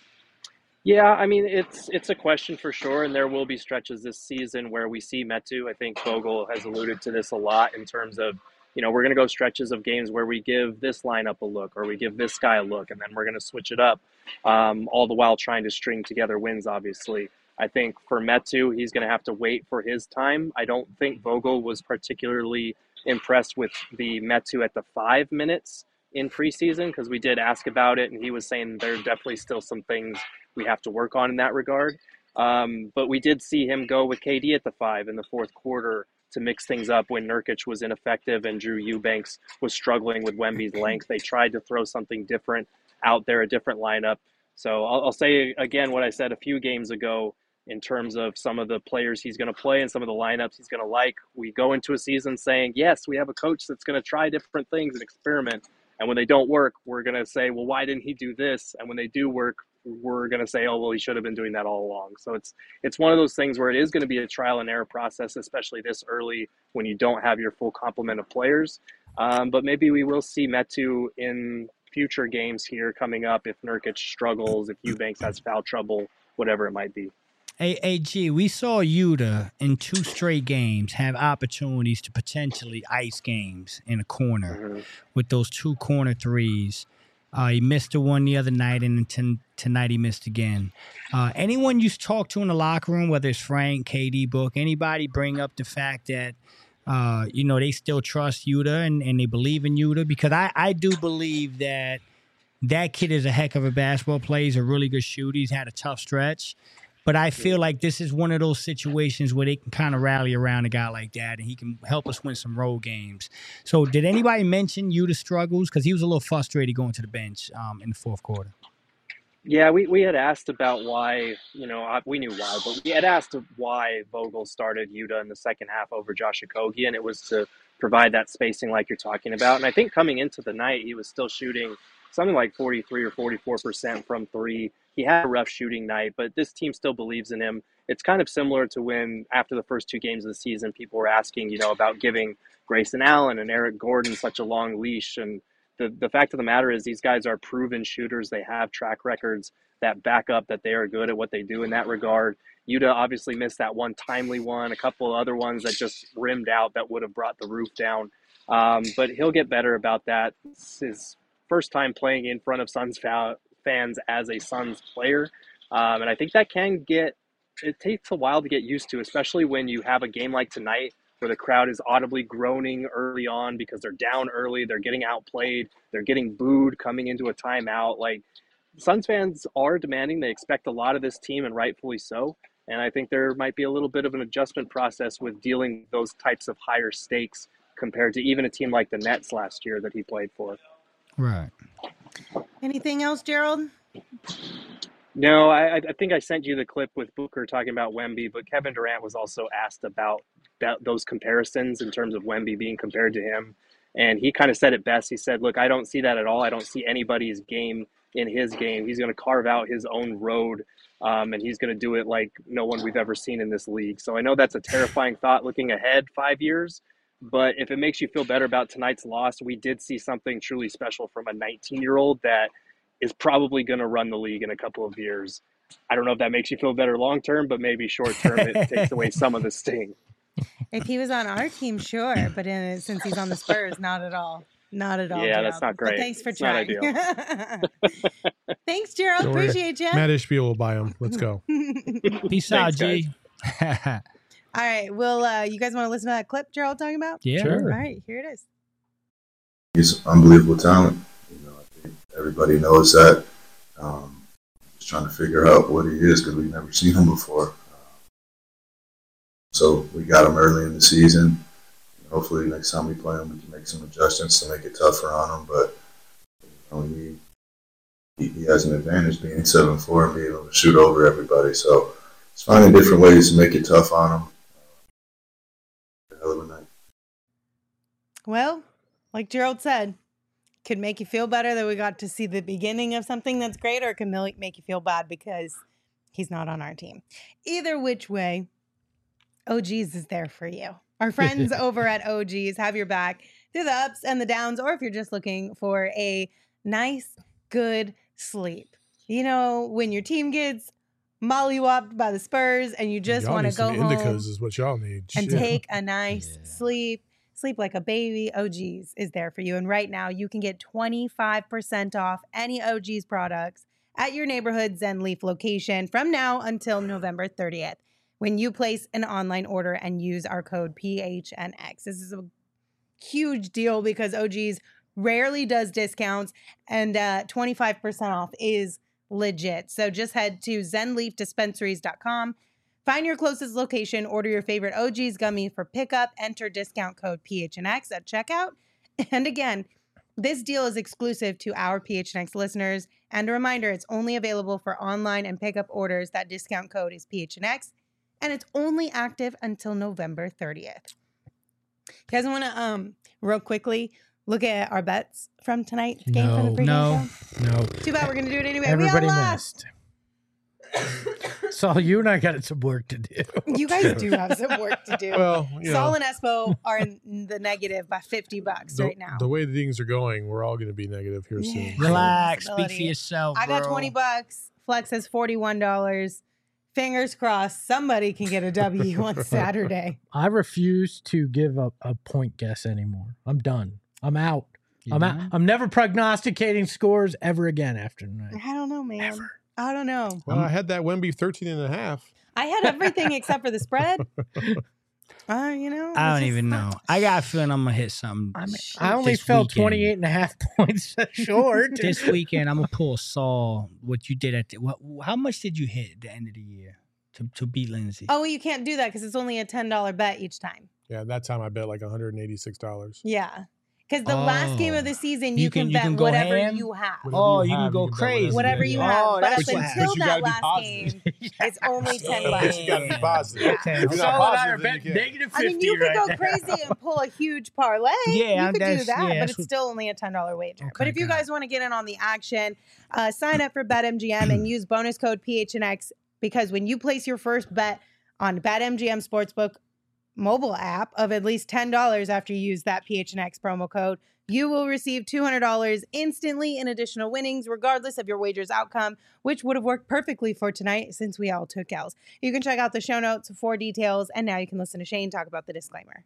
Yeah, I mean, it's it's a question for sure, and there will be stretches this season where we see Metu. I think Vogel has alluded to this a lot in terms of, you know, we're going to go stretches of games where we give this lineup a look or we give this guy a look, and then we're going to switch it up, um, all the while trying to string together wins, obviously. I think for Metu, he's going to have to wait for his time. I don't think Vogel was particularly impressed with the Metu at the five minutes in preseason because we did ask about it, and he was saying there are definitely still some things we have to work on in that regard. Um, but we did see him go with K D at the five in the fourth quarter to mix things up when Nurkic was ineffective and Drew Eubanks was struggling with Wemby's length. They tried to throw something different out there, a different lineup. So I'll, I'll say again what I said a few games ago in terms of some of the players he's going to play and some of the lineups he's going to like. We go into a season saying, yes, we have a coach that's going to try different things and experiment. And when they don't work, we're going to say, well, why didn't he do this? And when they do work, we're going to say, oh, well, he should have been doing that all along. So it's it's one of those things where it is going to be a trial and error process, especially this early when you don't have your full complement of players. Um, but maybe we will see Metu in future games here coming up if Nurkic struggles, if Eubanks has foul trouble, whatever it might be. Hey, hey, G, we saw Yuta in two straight games have opportunities to potentially ice games in a corner mm-hmm. with those two corner threes. Uh, he missed the one the other night, and t- tonight he missed again. Uh, anyone you talk to in the locker room, whether it's Frank, K D, Book, anybody bring up the fact that, uh, you know, they still trust Yuta and, and they believe in Yuta? Because I, I do believe that that kid is a heck of a basketball player. He's a really good shooter. He's had a tough stretch. But I feel like this is one of those situations where they can kind of rally around a guy like that, and he can help us win some road games. So did anybody mention Yuta struggles? Because he was a little frustrated going to the bench um, in the fourth quarter. Yeah, we, we had asked about why, you know, we knew why, but we had asked why Vogel started Yuta in the second half over Josh Okogie, and it was to provide that spacing like you're talking about. And I think coming into the night, he was still shooting something like forty-three or forty-four percent from three. He had a rough shooting night, but this team still believes in him. It's kind of similar to when, after the first two games of the season, people were asking, you know, about giving Grayson Allen and Eric Gordon such a long leash. And the, the fact of the matter is these guys are proven shooters. They have track records that back up that they are good at what they do in that regard. Yuta obviously missed that one timely one, a couple of other ones that just rimmed out that would have brought the roof down. Um, but he'll get better about that. It's his first time playing in front of Suns fa- fans as a Suns player. Um, and I think that can get, it takes a while to get used to, especially when you have a game like tonight where the crowd is audibly groaning early on because they're down early, they're getting outplayed, they're getting booed coming into a timeout. Like, Suns fans are demanding, they expect a lot of this team, and rightfully so. And I think there might be a little bit of an adjustment process with dealing with those types of higher stakes compared to even a team like the Nets last year that he played for. Right. Anything else, Gerald? No, I, I think I sent you the clip with Booker talking about Wemby, but Kevin Durant was also asked about that, those comparisons in terms of Wemby being compared to him. And he kind of said it best. He said, look, I don't see that at all. I don't see anybody's game in his game. He's going to carve out his own road, um, and he's going to do it like no one we've ever seen in this league. So I know that's a terrifying thought looking ahead five years, but if it makes you feel better about tonight's loss, we did see something truly special from a nineteen-year-old that is probably going to run the league in a couple of years. I don't know if that makes you feel better long-term, but maybe short-term it takes away some of the sting. If he was on our team, sure, but in, since he's on the Spurs, not at all. Not at all. Yeah, Gerald. that's not great. But thanks for it's trying. Thanks, Gerald. Don't worry. Appreciate you. Matt Ishbia will buy him. Let's go. Peace Thanks, out, G. All right. Well, uh, you guys want to listen to that clip Gerald talking about? Yeah. Sure. All right. Here it is. He's unbelievable talent. You know, I think everybody knows that. Um, just trying to figure out what he is because we've never seen him before. So we got him early in the season. Hopefully next time we play him, we can make some adjustments to make it tougher on him. But you know, he, he he has an advantage being seven four and being able to shoot over everybody. So it's finding different ways to make it tough on him. Uh, hell of a night. Well, like Gerald said, could make you feel better that we got to see the beginning of something that's great, or it can make you feel bad because he's not on our team. Either which way, O G's is there for you. Our friends over at O G's have your back through the ups and the downs, or if you're just looking for a nice, good sleep. You know, when your team gets mollywopped by the Spurs and you just want to go home indicas is what y'all need. and Shit. take a nice Yeah. sleep, sleep like a baby, O G's is there for you. And right now, you can get twenty-five percent off any O G's products at your neighborhood Zen Leaf location from now until November thirtieth. When you place an online order and use our code P H N X. This is a huge deal because O G's rarely does discounts, and uh, twenty-five percent off is legit. So just head to zen leaf dispensaries dot com, find your closest location, order your favorite O G's gummy for pickup, enter discount code P H N X at checkout. And again, this deal is exclusive to our P H N X listeners. And a reminder, it's only available for online and pickup orders. That discount code is P H N X. And it's only active until November thirtieth. You guys want to, um, real quickly, look at our bets from tonight's game from the No, pregame no. show? No. Too bad we're going to do it anyway. Everybody we all lost. missed. Saul, you and I got some work to do. You guys do have some work to do. Well, you Saul know, and Espo are in the negative by fifty bucks the, right now. the way things are going, we're all going to be negative here Yeah. soon. Relax. Speak for Possibility. yourself, I got bro. twenty bucks. Flex has forty-one dollars. Fingers crossed somebody can get a W on Saturday. I refuse to give up a point guess anymore. I'm done. I'm out. You I'm out. done? I'm never prognosticating scores ever again after tonight. I don't know, man. I don't know. Well, I had that Wemby thirteen and a half. I had everything except for the spread. Uh, you know, I it's don't just even not- know. I got a feeling I'm gonna hit something. I, mean, I only this fell weekend. twenty-eight and a half points short. This weekend, I'm gonna pull Saul. What you did at the, what? How much did you hit at the end of the year? to, to beat Lindsay. Oh, well, you can't do that because it's only a ten dollar bet each time. Yeah, that time I bet like one hundred eighty-six dollars. Yeah. Because the last game of the season, you, You can- can, you bet can go whatever ham? you have. Whatever Oh, you you can have, go you can bet crazy. Whatever you Oh, have. But that's up what until happens. But you gotta that be last positive. game, it's only ten But bucks. you gotta be positive. Yeah. Okay. If you're So not and I are positive, then you betting can't. negative I mean, fifty you could right go now. crazy and pull a huge parlay. Yeah, you could do that's- that, yeah, but that's it's what- still only a ten dollar wager. Okay, but if you got guys want to get in on the action, uh, sign up for BetMGM and use bonus code P H N X because when you place your first bet on BetMGM Sportsbook mobile app of at least ten dollars after you use that P H N X promo code, you will receive two hundred dollars instantly in additional winnings, regardless of your wager's outcome, which would have worked perfectly for tonight since we all took L's. You can check out the show notes for details, and now you can listen to Shane talk about the disclaimer.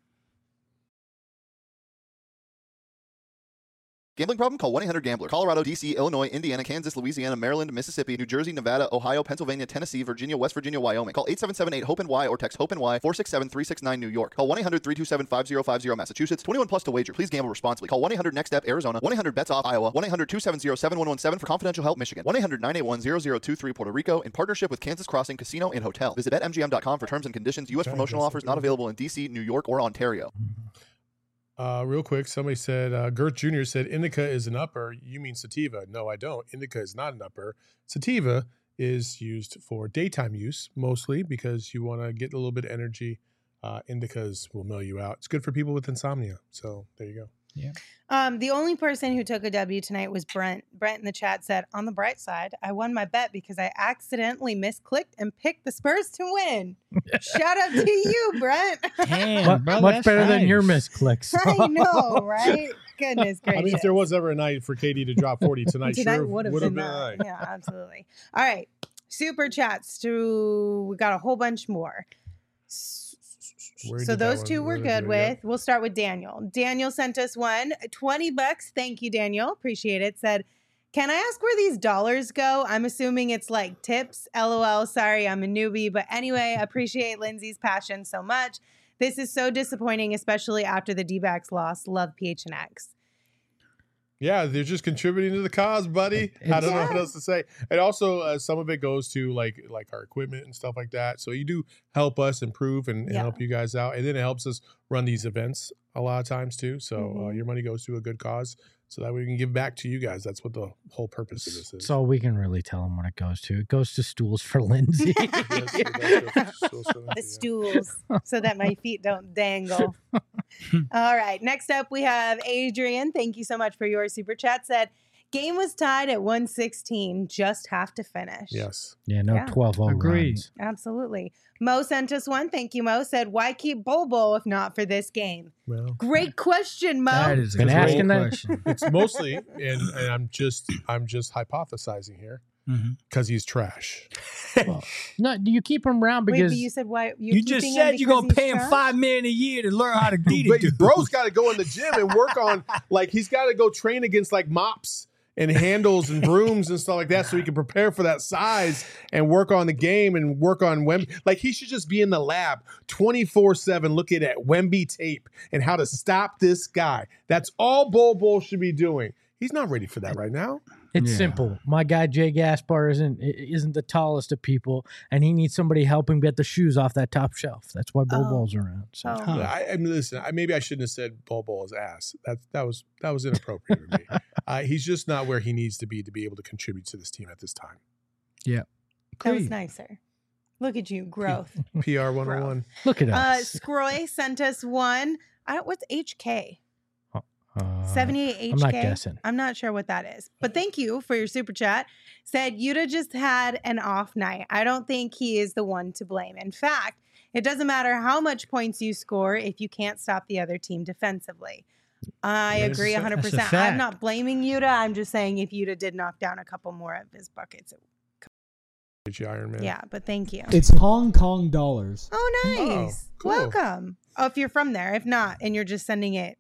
Gambling problem? Call one eight hundred gambler. Colorado, D C, Illinois, Indiana, Kansas, Louisiana, Maryland, Mississippi, New Jersey, Nevada, Ohio, Pennsylvania, Tennessee, Virginia, West Virginia, Wyoming. Call eight seven seven eight hope N Y or text hope N Y four six seven three six nine New York. Call one eight hundred three two seven five zero five zero Massachusetts. twenty-one plus to wager. Please gamble responsibly. Call one eight hundred next step Arizona. one eight hundred bets off Iowa. one eight hundred two seven zero seven one one seven for confidential help Michigan. one eight hundred nine eight one zero zero two three Puerto Rico in partnership with Kansas Crossing Casino and Hotel. Visit bet M G M dot com for terms and conditions. U S promotional offers not available in D C, New York, or Ontario. Uh, real quick, somebody said, uh, Gert Junior said, indica is an upper. You mean sativa. No, I don't. Indica is not an upper. Sativa is used for daytime use, mostly because you want to get a little bit of energy. Uh, indicas will mill you out. It's good for people with insomnia. So there you go. Yeah. Um, the only person who took a W tonight was Brent. Brent in the chat said, on the bright side, I won my bet because I accidentally misclicked and picked the Spurs to win. Shout out to you, Brent. Damn, Mu- brother, much that's better than nice. your misclicks. I know, right? Goodness gracious. I mean, if there was ever a night for K D to drop forty tonight, Tonight sure would have would've been, been a that. night. Yeah, absolutely. All right. Super chats to, we got a whole bunch more. Where So did that those one- two where we're did good it go? with. We'll start with Daniel. Daniel sent us one, twenty bucks. Thank you, Daniel. Appreciate it. Said, can I ask where these dollars go? I'm assuming it's like tips. LOL. Sorry, I'm a newbie. But anyway, appreciate Lindsay's passion so much. This is so disappointing, especially after the D-backs loss. Love P H N X. Yeah, they're just contributing to the cause, buddy. I It's- don't know what Yeah. else to say. And also, uh, some of it goes to like like our equipment and stuff like that. So you do help us improve and, and Yeah. help you guys out, and then it helps us run these events a lot of times too. So uh, Mhm. your money goes to a good cause, so that we can give back to you guys. That's what the whole purpose of this is. That's all we can really tell them what it goes to. It goes to stools for Lindsay. Yes, it does go for stools for Lindsay, The yeah. stools so that my feet don't dangle. All right. Next up, we have Adrian. Thank you so much for your super chat. Said, game was tied at one sixteen. Just have to finish. Yes. Yeah, no Yeah. twelve oh Agreed. runs. Absolutely. Mo sent us one. Thank you, Mo. Said, why keep Bobo if not for this game? Well, Great question, Mo. That is a Been great asking that- question. it's mostly, and, and I'm just I'm just hypothesizing here Mhm. because he's trash. Well, no, you keep him around Wait, because but you said why? You're You just keeping him said you're gonna because pay he's him trash? five million a year to learn how to beat But it. bro's got to go in the gym and work on like he's got to go train against like mops and handles and brooms and stuff like that so he can prepare for that size and work on the game and work on Wemby. Like he should just be in the lab twenty-four seven looking at Wemby tape and how to stop this guy. That's all Bol Bol should be doing. He's not ready for that right now. it's Yeah. simple. My guy Jay Gaspar isn't i- isn't the tallest of people, and he needs somebody help him get the shoes off that top shelf. That's why Bo Oh. Bol's around. So Oh. Huh. I, I mean, listen. I, maybe I shouldn't have said Bol Bol's ass. That that was that was inappropriate of me. Uh, he's just not where he needs to be to be able to contribute to this team at this time. That was Agreed. nicer. Look at you, growth. P R one oh one. look at Uh, us. Scroy sent us one. I don't, what's H K? Uh, seventy-eight H K? I'm not guessing. I'm not sure what that is. But thank you for your super chat. Said Yuta just had an off night. I don't think he is the one to blame. In fact, it doesn't matter how much points you score if you can't stop the other team defensively. I That's a agree fact. one hundred That's a percent. I'm fact. not blaming Yuta. I'm just saying if Yuta did knock down a couple more of his buckets. It, Iron Man. yeah, but thank you. It's Hong Kong dollars. Oh, nice. Oh, cool. Welcome. Oh, if you're from there. If not, and you're just sending it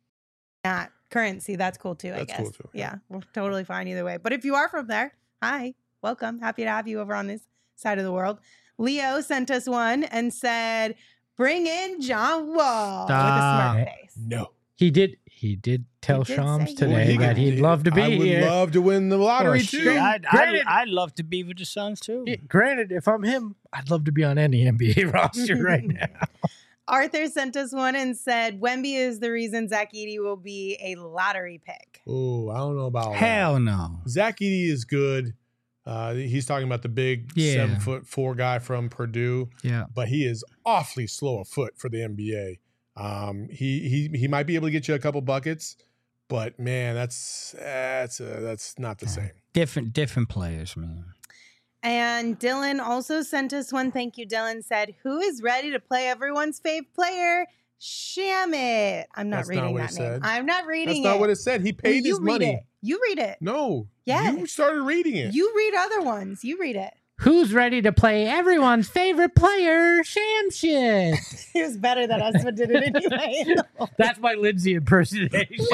not currency, that's cool too, I That's guess. cool too, Yeah. yeah. we're totally fine either way. But if you are from there, hi, welcome. Happy to have you over on this side of the world. Leo sent us one and said, bring in John Wall with a Stop. smart face. No. He did. He did tell He did Shams say he today would. that he'd love to be I would here. love to win the lottery Oh, too. shit. I'd, I'd, Granted- I'd love to be with the Suns too. Yeah, granted, if I'm him, I'd love to be on any N B A roster right now. Arthur sent us one and said Wemby is the reason Zach Edey will be a lottery pick. Oh, I don't know about Hell no. that. Zach Edey is good. Uh, he's talking about the big Yeah. seven foot four guy from Purdue, Yeah. but he is awfully slow of foot for the N B A. Um, he he he might be able to get you a couple buckets, but man, that's that's uh, that's not the same. Different different players, man. And Dylan also sent us one. Thank you, Dylan. Said, who is ready to play everyone's fave player? Shamit. I'm not That's not reading what that it name. said. I'm not reading That's it. not what it said. He paid you his read money. It. You read it. No, Yes. you started reading it. You read other ones. You read it. Who's ready to play everyone's favorite player, Sham Shit? It was better that us did it anyway. That's my Lindsay impersonation.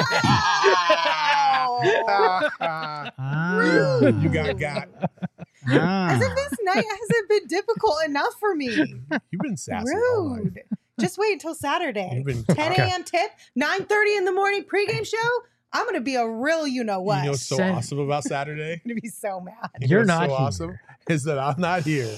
Ah. You got got. Ah. As if this night hasn't been difficult enough for me. You've been sassy all night. Rude. Just wait until Saturday. You've been ten a.m. tip, nine thirty in the morning pregame show. I'm going to be a real you know what. You know what's so Send- awesome about Saturday? I'm going to be so mad. You know You're what's not so here. awesome is that I'm not here.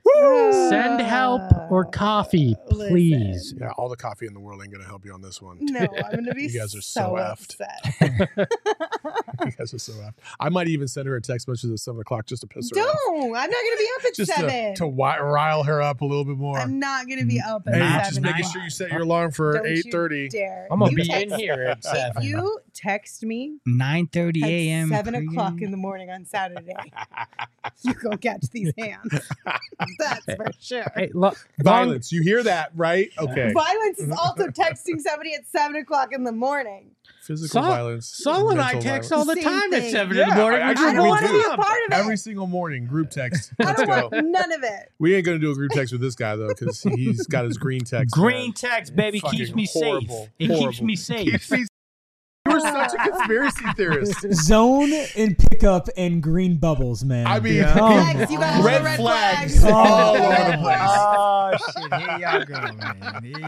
Send help or coffee, Listen. please. Yeah, all the coffee in the world ain't gonna help you on this one. No, I'm going to be You guys are so, so effed. upset. You guys are so effed. I might even send her a text message at seven o'clock just to piss her off. Don't. I'm not going to be up at Just seven. to, to wi- rile her up a little bit more. I'm not going to be up at Hey, seven. just making sure you set your alarm for Don't you eight thirty. dare. I'm gonna You be text- in here at If seven. you text me nine thirty at a.m. seven pregame. o'clock in the morning on Saturday, you go catch these hands. That's for sure. Hey, look, Violence. You hear that, right? Okay. Violence is also texting somebody at seven o'clock in the morning. Physical Sol- violence. Sol and I mental text violence. all the Same time at thing. seven Yeah, in the morning. I- I We're do I don't we want to do. be a part of it. Every single morning, group text. I Let's don't go. want none of it. We ain't gonna do a group text with this guy though, because he's got his green text. Green man. text, baby, Fucking keeps me horrible. safe. It keeps Horrible. me safe. Keeps me- You were such a conspiracy theorist. Zone and pickup and green bubbles, man. I mean, Come Flags, you got all red, the red flags, flags. all Oh. over the place. Oh shit! Here y'all go, man. Here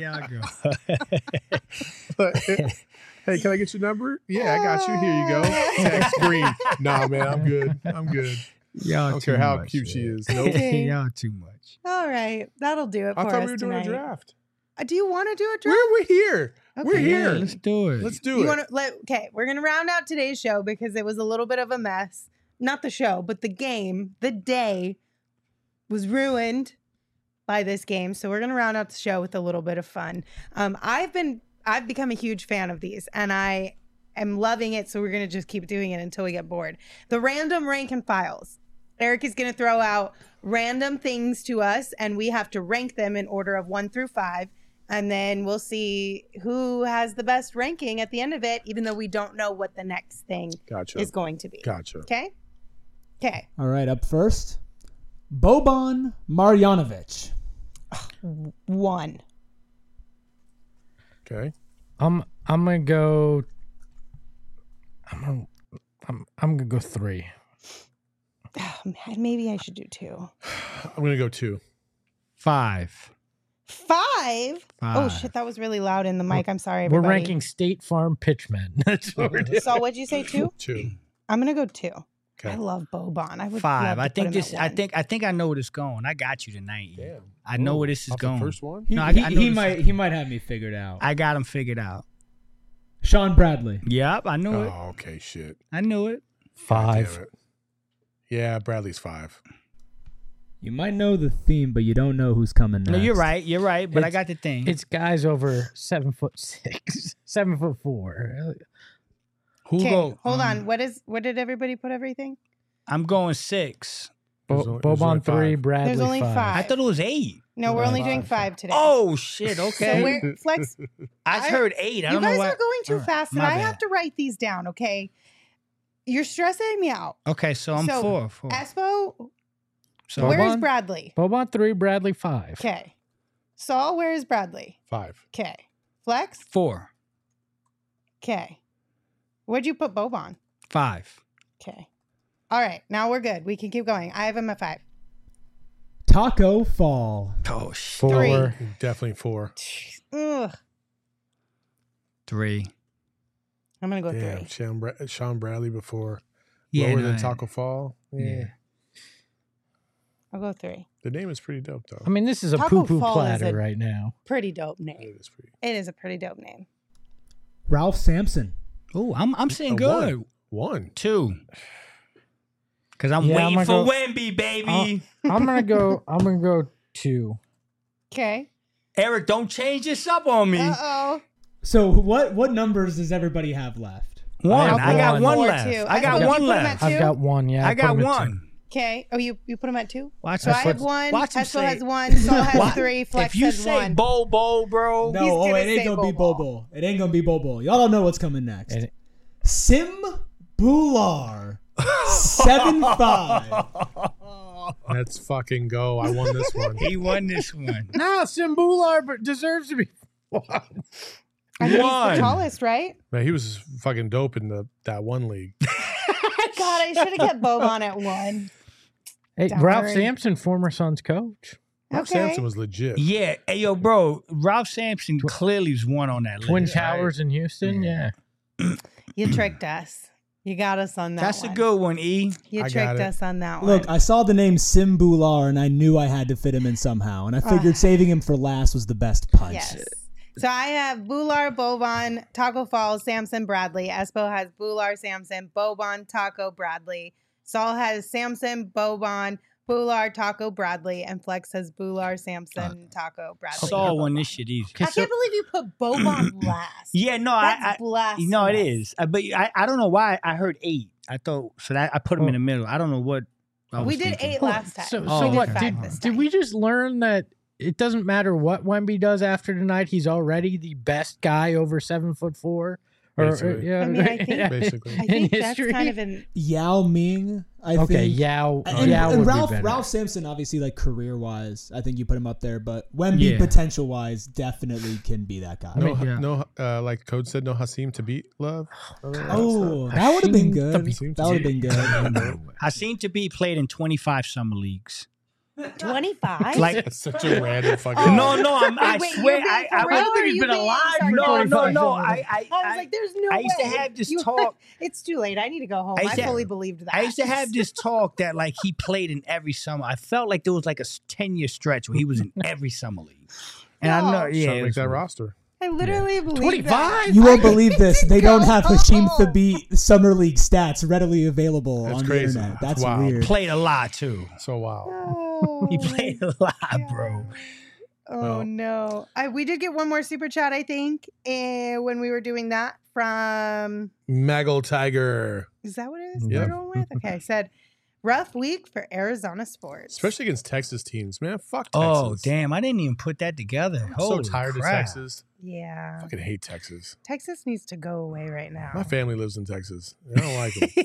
y'all go. Hey, can I get your number? Yeah, I got you. Here you go. Text green. Nah, man, I'm good. I'm good. Y'all I don't too care how much, cute she man. is. Nope. Y'all too much. All right, that'll do it for I us thought we were doing tonight. a draft. Uh, do you want to do a draft? We're, we're here. We're Okay. here. Yeah, let's do it. Let's do You it. want to let? Okay, we're gonna round out today's show because it was a little bit of a mess. Not the show, but the game, the day was ruined by this game. So we're gonna round out the show with a little bit of fun. Um, I've been, I've become a huge fan of these, and I am loving it. So we're gonna just keep doing it until we get bored. The random rank and files. Eric is gonna throw out random things to us, and we have to rank them in order of one through five. And then we'll see who has the best ranking at the end of it, even though we don't know what the next thing Gotcha. is going to be. Gotcha. Okay? Okay. All right, up first, Boban Marjanovic. One. Okay. I'm I'm gonna go. I'm gonna I'm I'm gonna go three. Oh, man, maybe I should do two. I'm gonna go two. Five. Five? Oh, Five. shit. That was really loud in the mic. I'm sorry, We're everybody. ranking State Farm pitchmen. That's what we're doing. So what'd you say, two? Two. I'm going to go two. Okay. I love Boban. I would Five. love to I put think him this. at I one. think. I think I know where this going. I got you tonight. Damn. I know Whoa. where this is Off the going. first one? He, No, I- he, I know he this- might he might have me figured out. I got him figured out. Sean Bradley. Yep, I knew it. Oh, okay. Shit. I knew it. Five. Damn it. Yeah, Bradley's five. You might know the theme, but you don't know who's coming next. No, you're right. You're right. But I It's- got the thing. It's guys over seven foot six, seven foot four. Who Okay, go? hold um, on. What is? What did everybody put everything? I'm going six. Bo- There's only- there's only Boban three, five. Bradley There's only five. five. I thought it was eight. No, we're Right. only doing Five. five today. Oh shit. So Okay. we're, Flex, I I- heard eight. I you don't guys know why. are going too All right, fast, and my I bad. have to write these down, okay? You're stressing me out. Okay, so I'm So, four. Four. Espo, So where is Boban? Bradley? Boban three, Bradley five. Okay. Saul, where is Bradley? Five. Okay. Flex? four. Okay. Where'd you put Boban? Five. Okay. All right. Now we're good. We can keep going. I have him at five. Taco Fall. Oh shit. Four. Three. Definitely four. Ugh. Three. I'm gonna go Damn, three. Sean, Bra- Sean Bradley before Yeah, lower no, than I- Taco Fall. Yeah. Yeah. I'll go three. The name is pretty dope though. I mean, this is a Taco poo poo Fall is platter a- right now. Pretty dope name. It is pretty. It is a pretty dope name. Ralph Sampson. Oh, I'm I'm saying A good. One. One. Two. Because I'm Yeah, I'm waiting gonna for go- Wemby, baby. I'm gonna go. I'm gonna go two. Okay. Eric, don't change this up on me. Uh oh. So what what numbers does everybody have left? One. I I, have got one. one Four, left. two. I got I one put him at left. two? I've got one. Yeah, I put got him at two. one. Okay. Oh, you you put them at two. Watch So him I say- have one. watch him Tesla say- has one. Saul has What? three. Flex If you has say one. Bobo, bro. No, He's oh, gonna it ain't say gonna be Bobo. Bobo. It ain't gonna be Bobo. Y'all don't know what's coming next. And it- Sim Bular. seven five. Let's fucking go. I won this one. He won this one. No, Simbular but deserves to be one. I mean, One. he's the tallest, right? Man, he was fucking dope in the that one league. God, I should have kept Boban at one. Hey, Darn. Ralph Sampson, former Suns coach. Ralph Okay. Sampson was legit. Yeah. Hey, yo, bro. Ralph Sampson clearly is one on that Twin list. Towers in Houston. Yeah. You tricked us. You got us on that That's one. a good one, E. You I got tricked it. us on that one. Look, I saw the name Sim Bular and I knew I had to fit him in somehow. And I figured Ah. saving him for last was the best punch. Yes. So I have Bular, Boban, Taco Falls, Samson, Bradley. Espo has Bular, Samson, Boban, Taco, Bradley. Saul has Samson, Boban, Bular, Taco, Bradley, and Flex has Bular, Samson, Taco, Bradley. Saul won this shit easy. I can't believe you put Boban last. Yeah, no, That's I, I blasphemous. no, it is. I, but I, I don't know why I heard eight. I thought so that I put him in the middle. I don't know what. I was We did thinking. eight last time. So, Oh, so okay. what? Five Did, this did time. we just learn that it doesn't matter what Wemby does after tonight? He's already the best guy over seven foot four. Or, Basically. yeah, I mean, I think- Basically. I in think that's history. kind of an Yao Ming, I okay, think. Yao. And, Yao and would Ralph be better. Ralph Sampson, obviously, like career wise, I think you put him up there. But Wemby, Yeah. potential wise, definitely can be that guy. No, yeah. no, uh, like Code said, no Hasim to beat love. Oh, that would have been good. Hasim That would have been good. I seem to be played in twenty-five summer leagues. twenty-five. Like That's such a random fucking. Oh. no, no, I'm, I Wait, swear, you're being I, for I, real, I or are you being No, sarcastic? no, no. I, I, I was I, like, "There's no I used to way." have this You- talk. It's too late. I need to go home. I I, used to- fully believed that. I used to have this talk that like he played in every summer. I felt like there was like a ten year stretch where he was in every summer league. And I know, No. yeah, Trying it to make was that weird. roster. I literally believe twenty-five? You that. won't I believe need this. to They don't go have Hashim home. Thabit summer league stats readily available That's on crazy. the internet. That's That's wild. weird. Played a lot too. So wow. Oh, He played a lot, bro. Oh Well. no! I, we did get one more super chat, I think, eh, when we were doing that from. Maggle Tiger, Is that what it is? Yeah. We're going with. Okay, said rough week for Arizona sports. especially against Texas teams, man. Fuck Texas. Oh, damn. I didn't even put that together. I'm so Holy tired crap. of Texas. Yeah, I fucking hate Texas. Texas needs to go away right now. My family lives in Texas. I don't like them.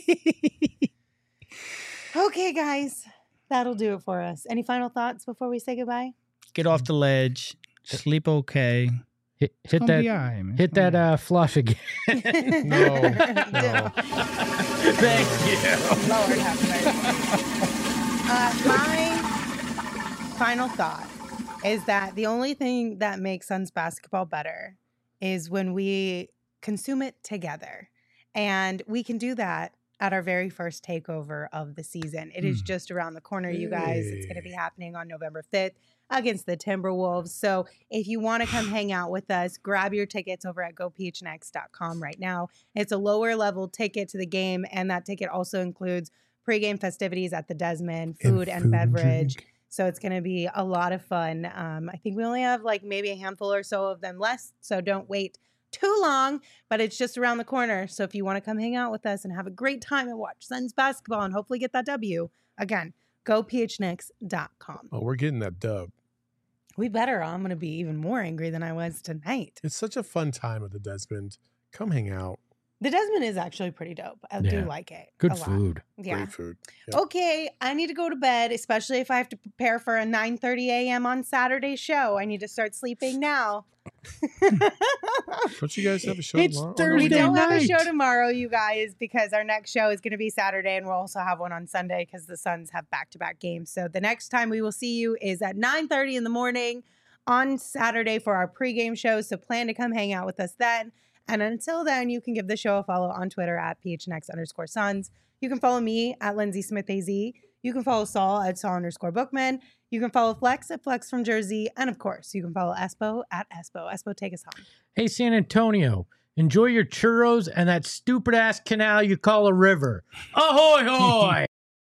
Okay, guys, that'll do it for us. Any final thoughts before we say goodbye? Get off the ledge. Sleep okay. Hit, hit Gonna that. be all right, man. Hit that uh, flush again. No, no. Thank you. Lord have mercy. Uh, my final thought is that the only thing that makes Suns basketball better is when we consume it together. And we can do that at our very first takeover of the season. It is just around the corner, you guys. It's going to be happening on November fifth against the Timberwolves. So if you want to come hang out with us, grab your tickets over at go p h n x dot com right now. It's a lower level ticket to the game, and that ticket also includes pregame festivities at the Desmond, food and, food and beverage. drink. So it's going to be a lot of fun. Um, I think we only have like maybe a handful or so of them left, so don't wait too long, but it's just around the corner. So if you want to come hang out with us and have a great time and watch Suns basketball and hopefully get that W, again, go p h n x dot com. Oh, we're getting that dub. We better. I'm going to be even more angry than I was tonight. It's such a fun time at the Desmond. Come hang out. The Desmond is actually pretty dope. I Yeah. do like it. Good a lot. food. Yeah. Great food. Yep. Okay, I need to go to bed, especially if I have to prepare for a nine thirty a.m. on Saturday show. I need to start sleeping now. Don't you guys have a show It's tomorrow? Thursday We don't have a night. show tomorrow, you guys, because our next show is going to be Saturday, and we'll also have one on Sunday because the Suns have back-to-back games. So the next time we will see you is at nine thirty in the morning on Saturday for our pregame show. So plan to come hang out with us then. And until then, you can give the show a follow on Twitter at P H N X underscore Suns. You can follow me at Lindsay Smith A Z. You can follow Saul at Saul underscore Bookman. You can follow Flex at Flex from Jersey. And of course, you can follow Espo at Espo. Espo, take us home. Hey, San Antonio, enjoy your churros and that stupid ass canal you call a river. Ahoy, hoy!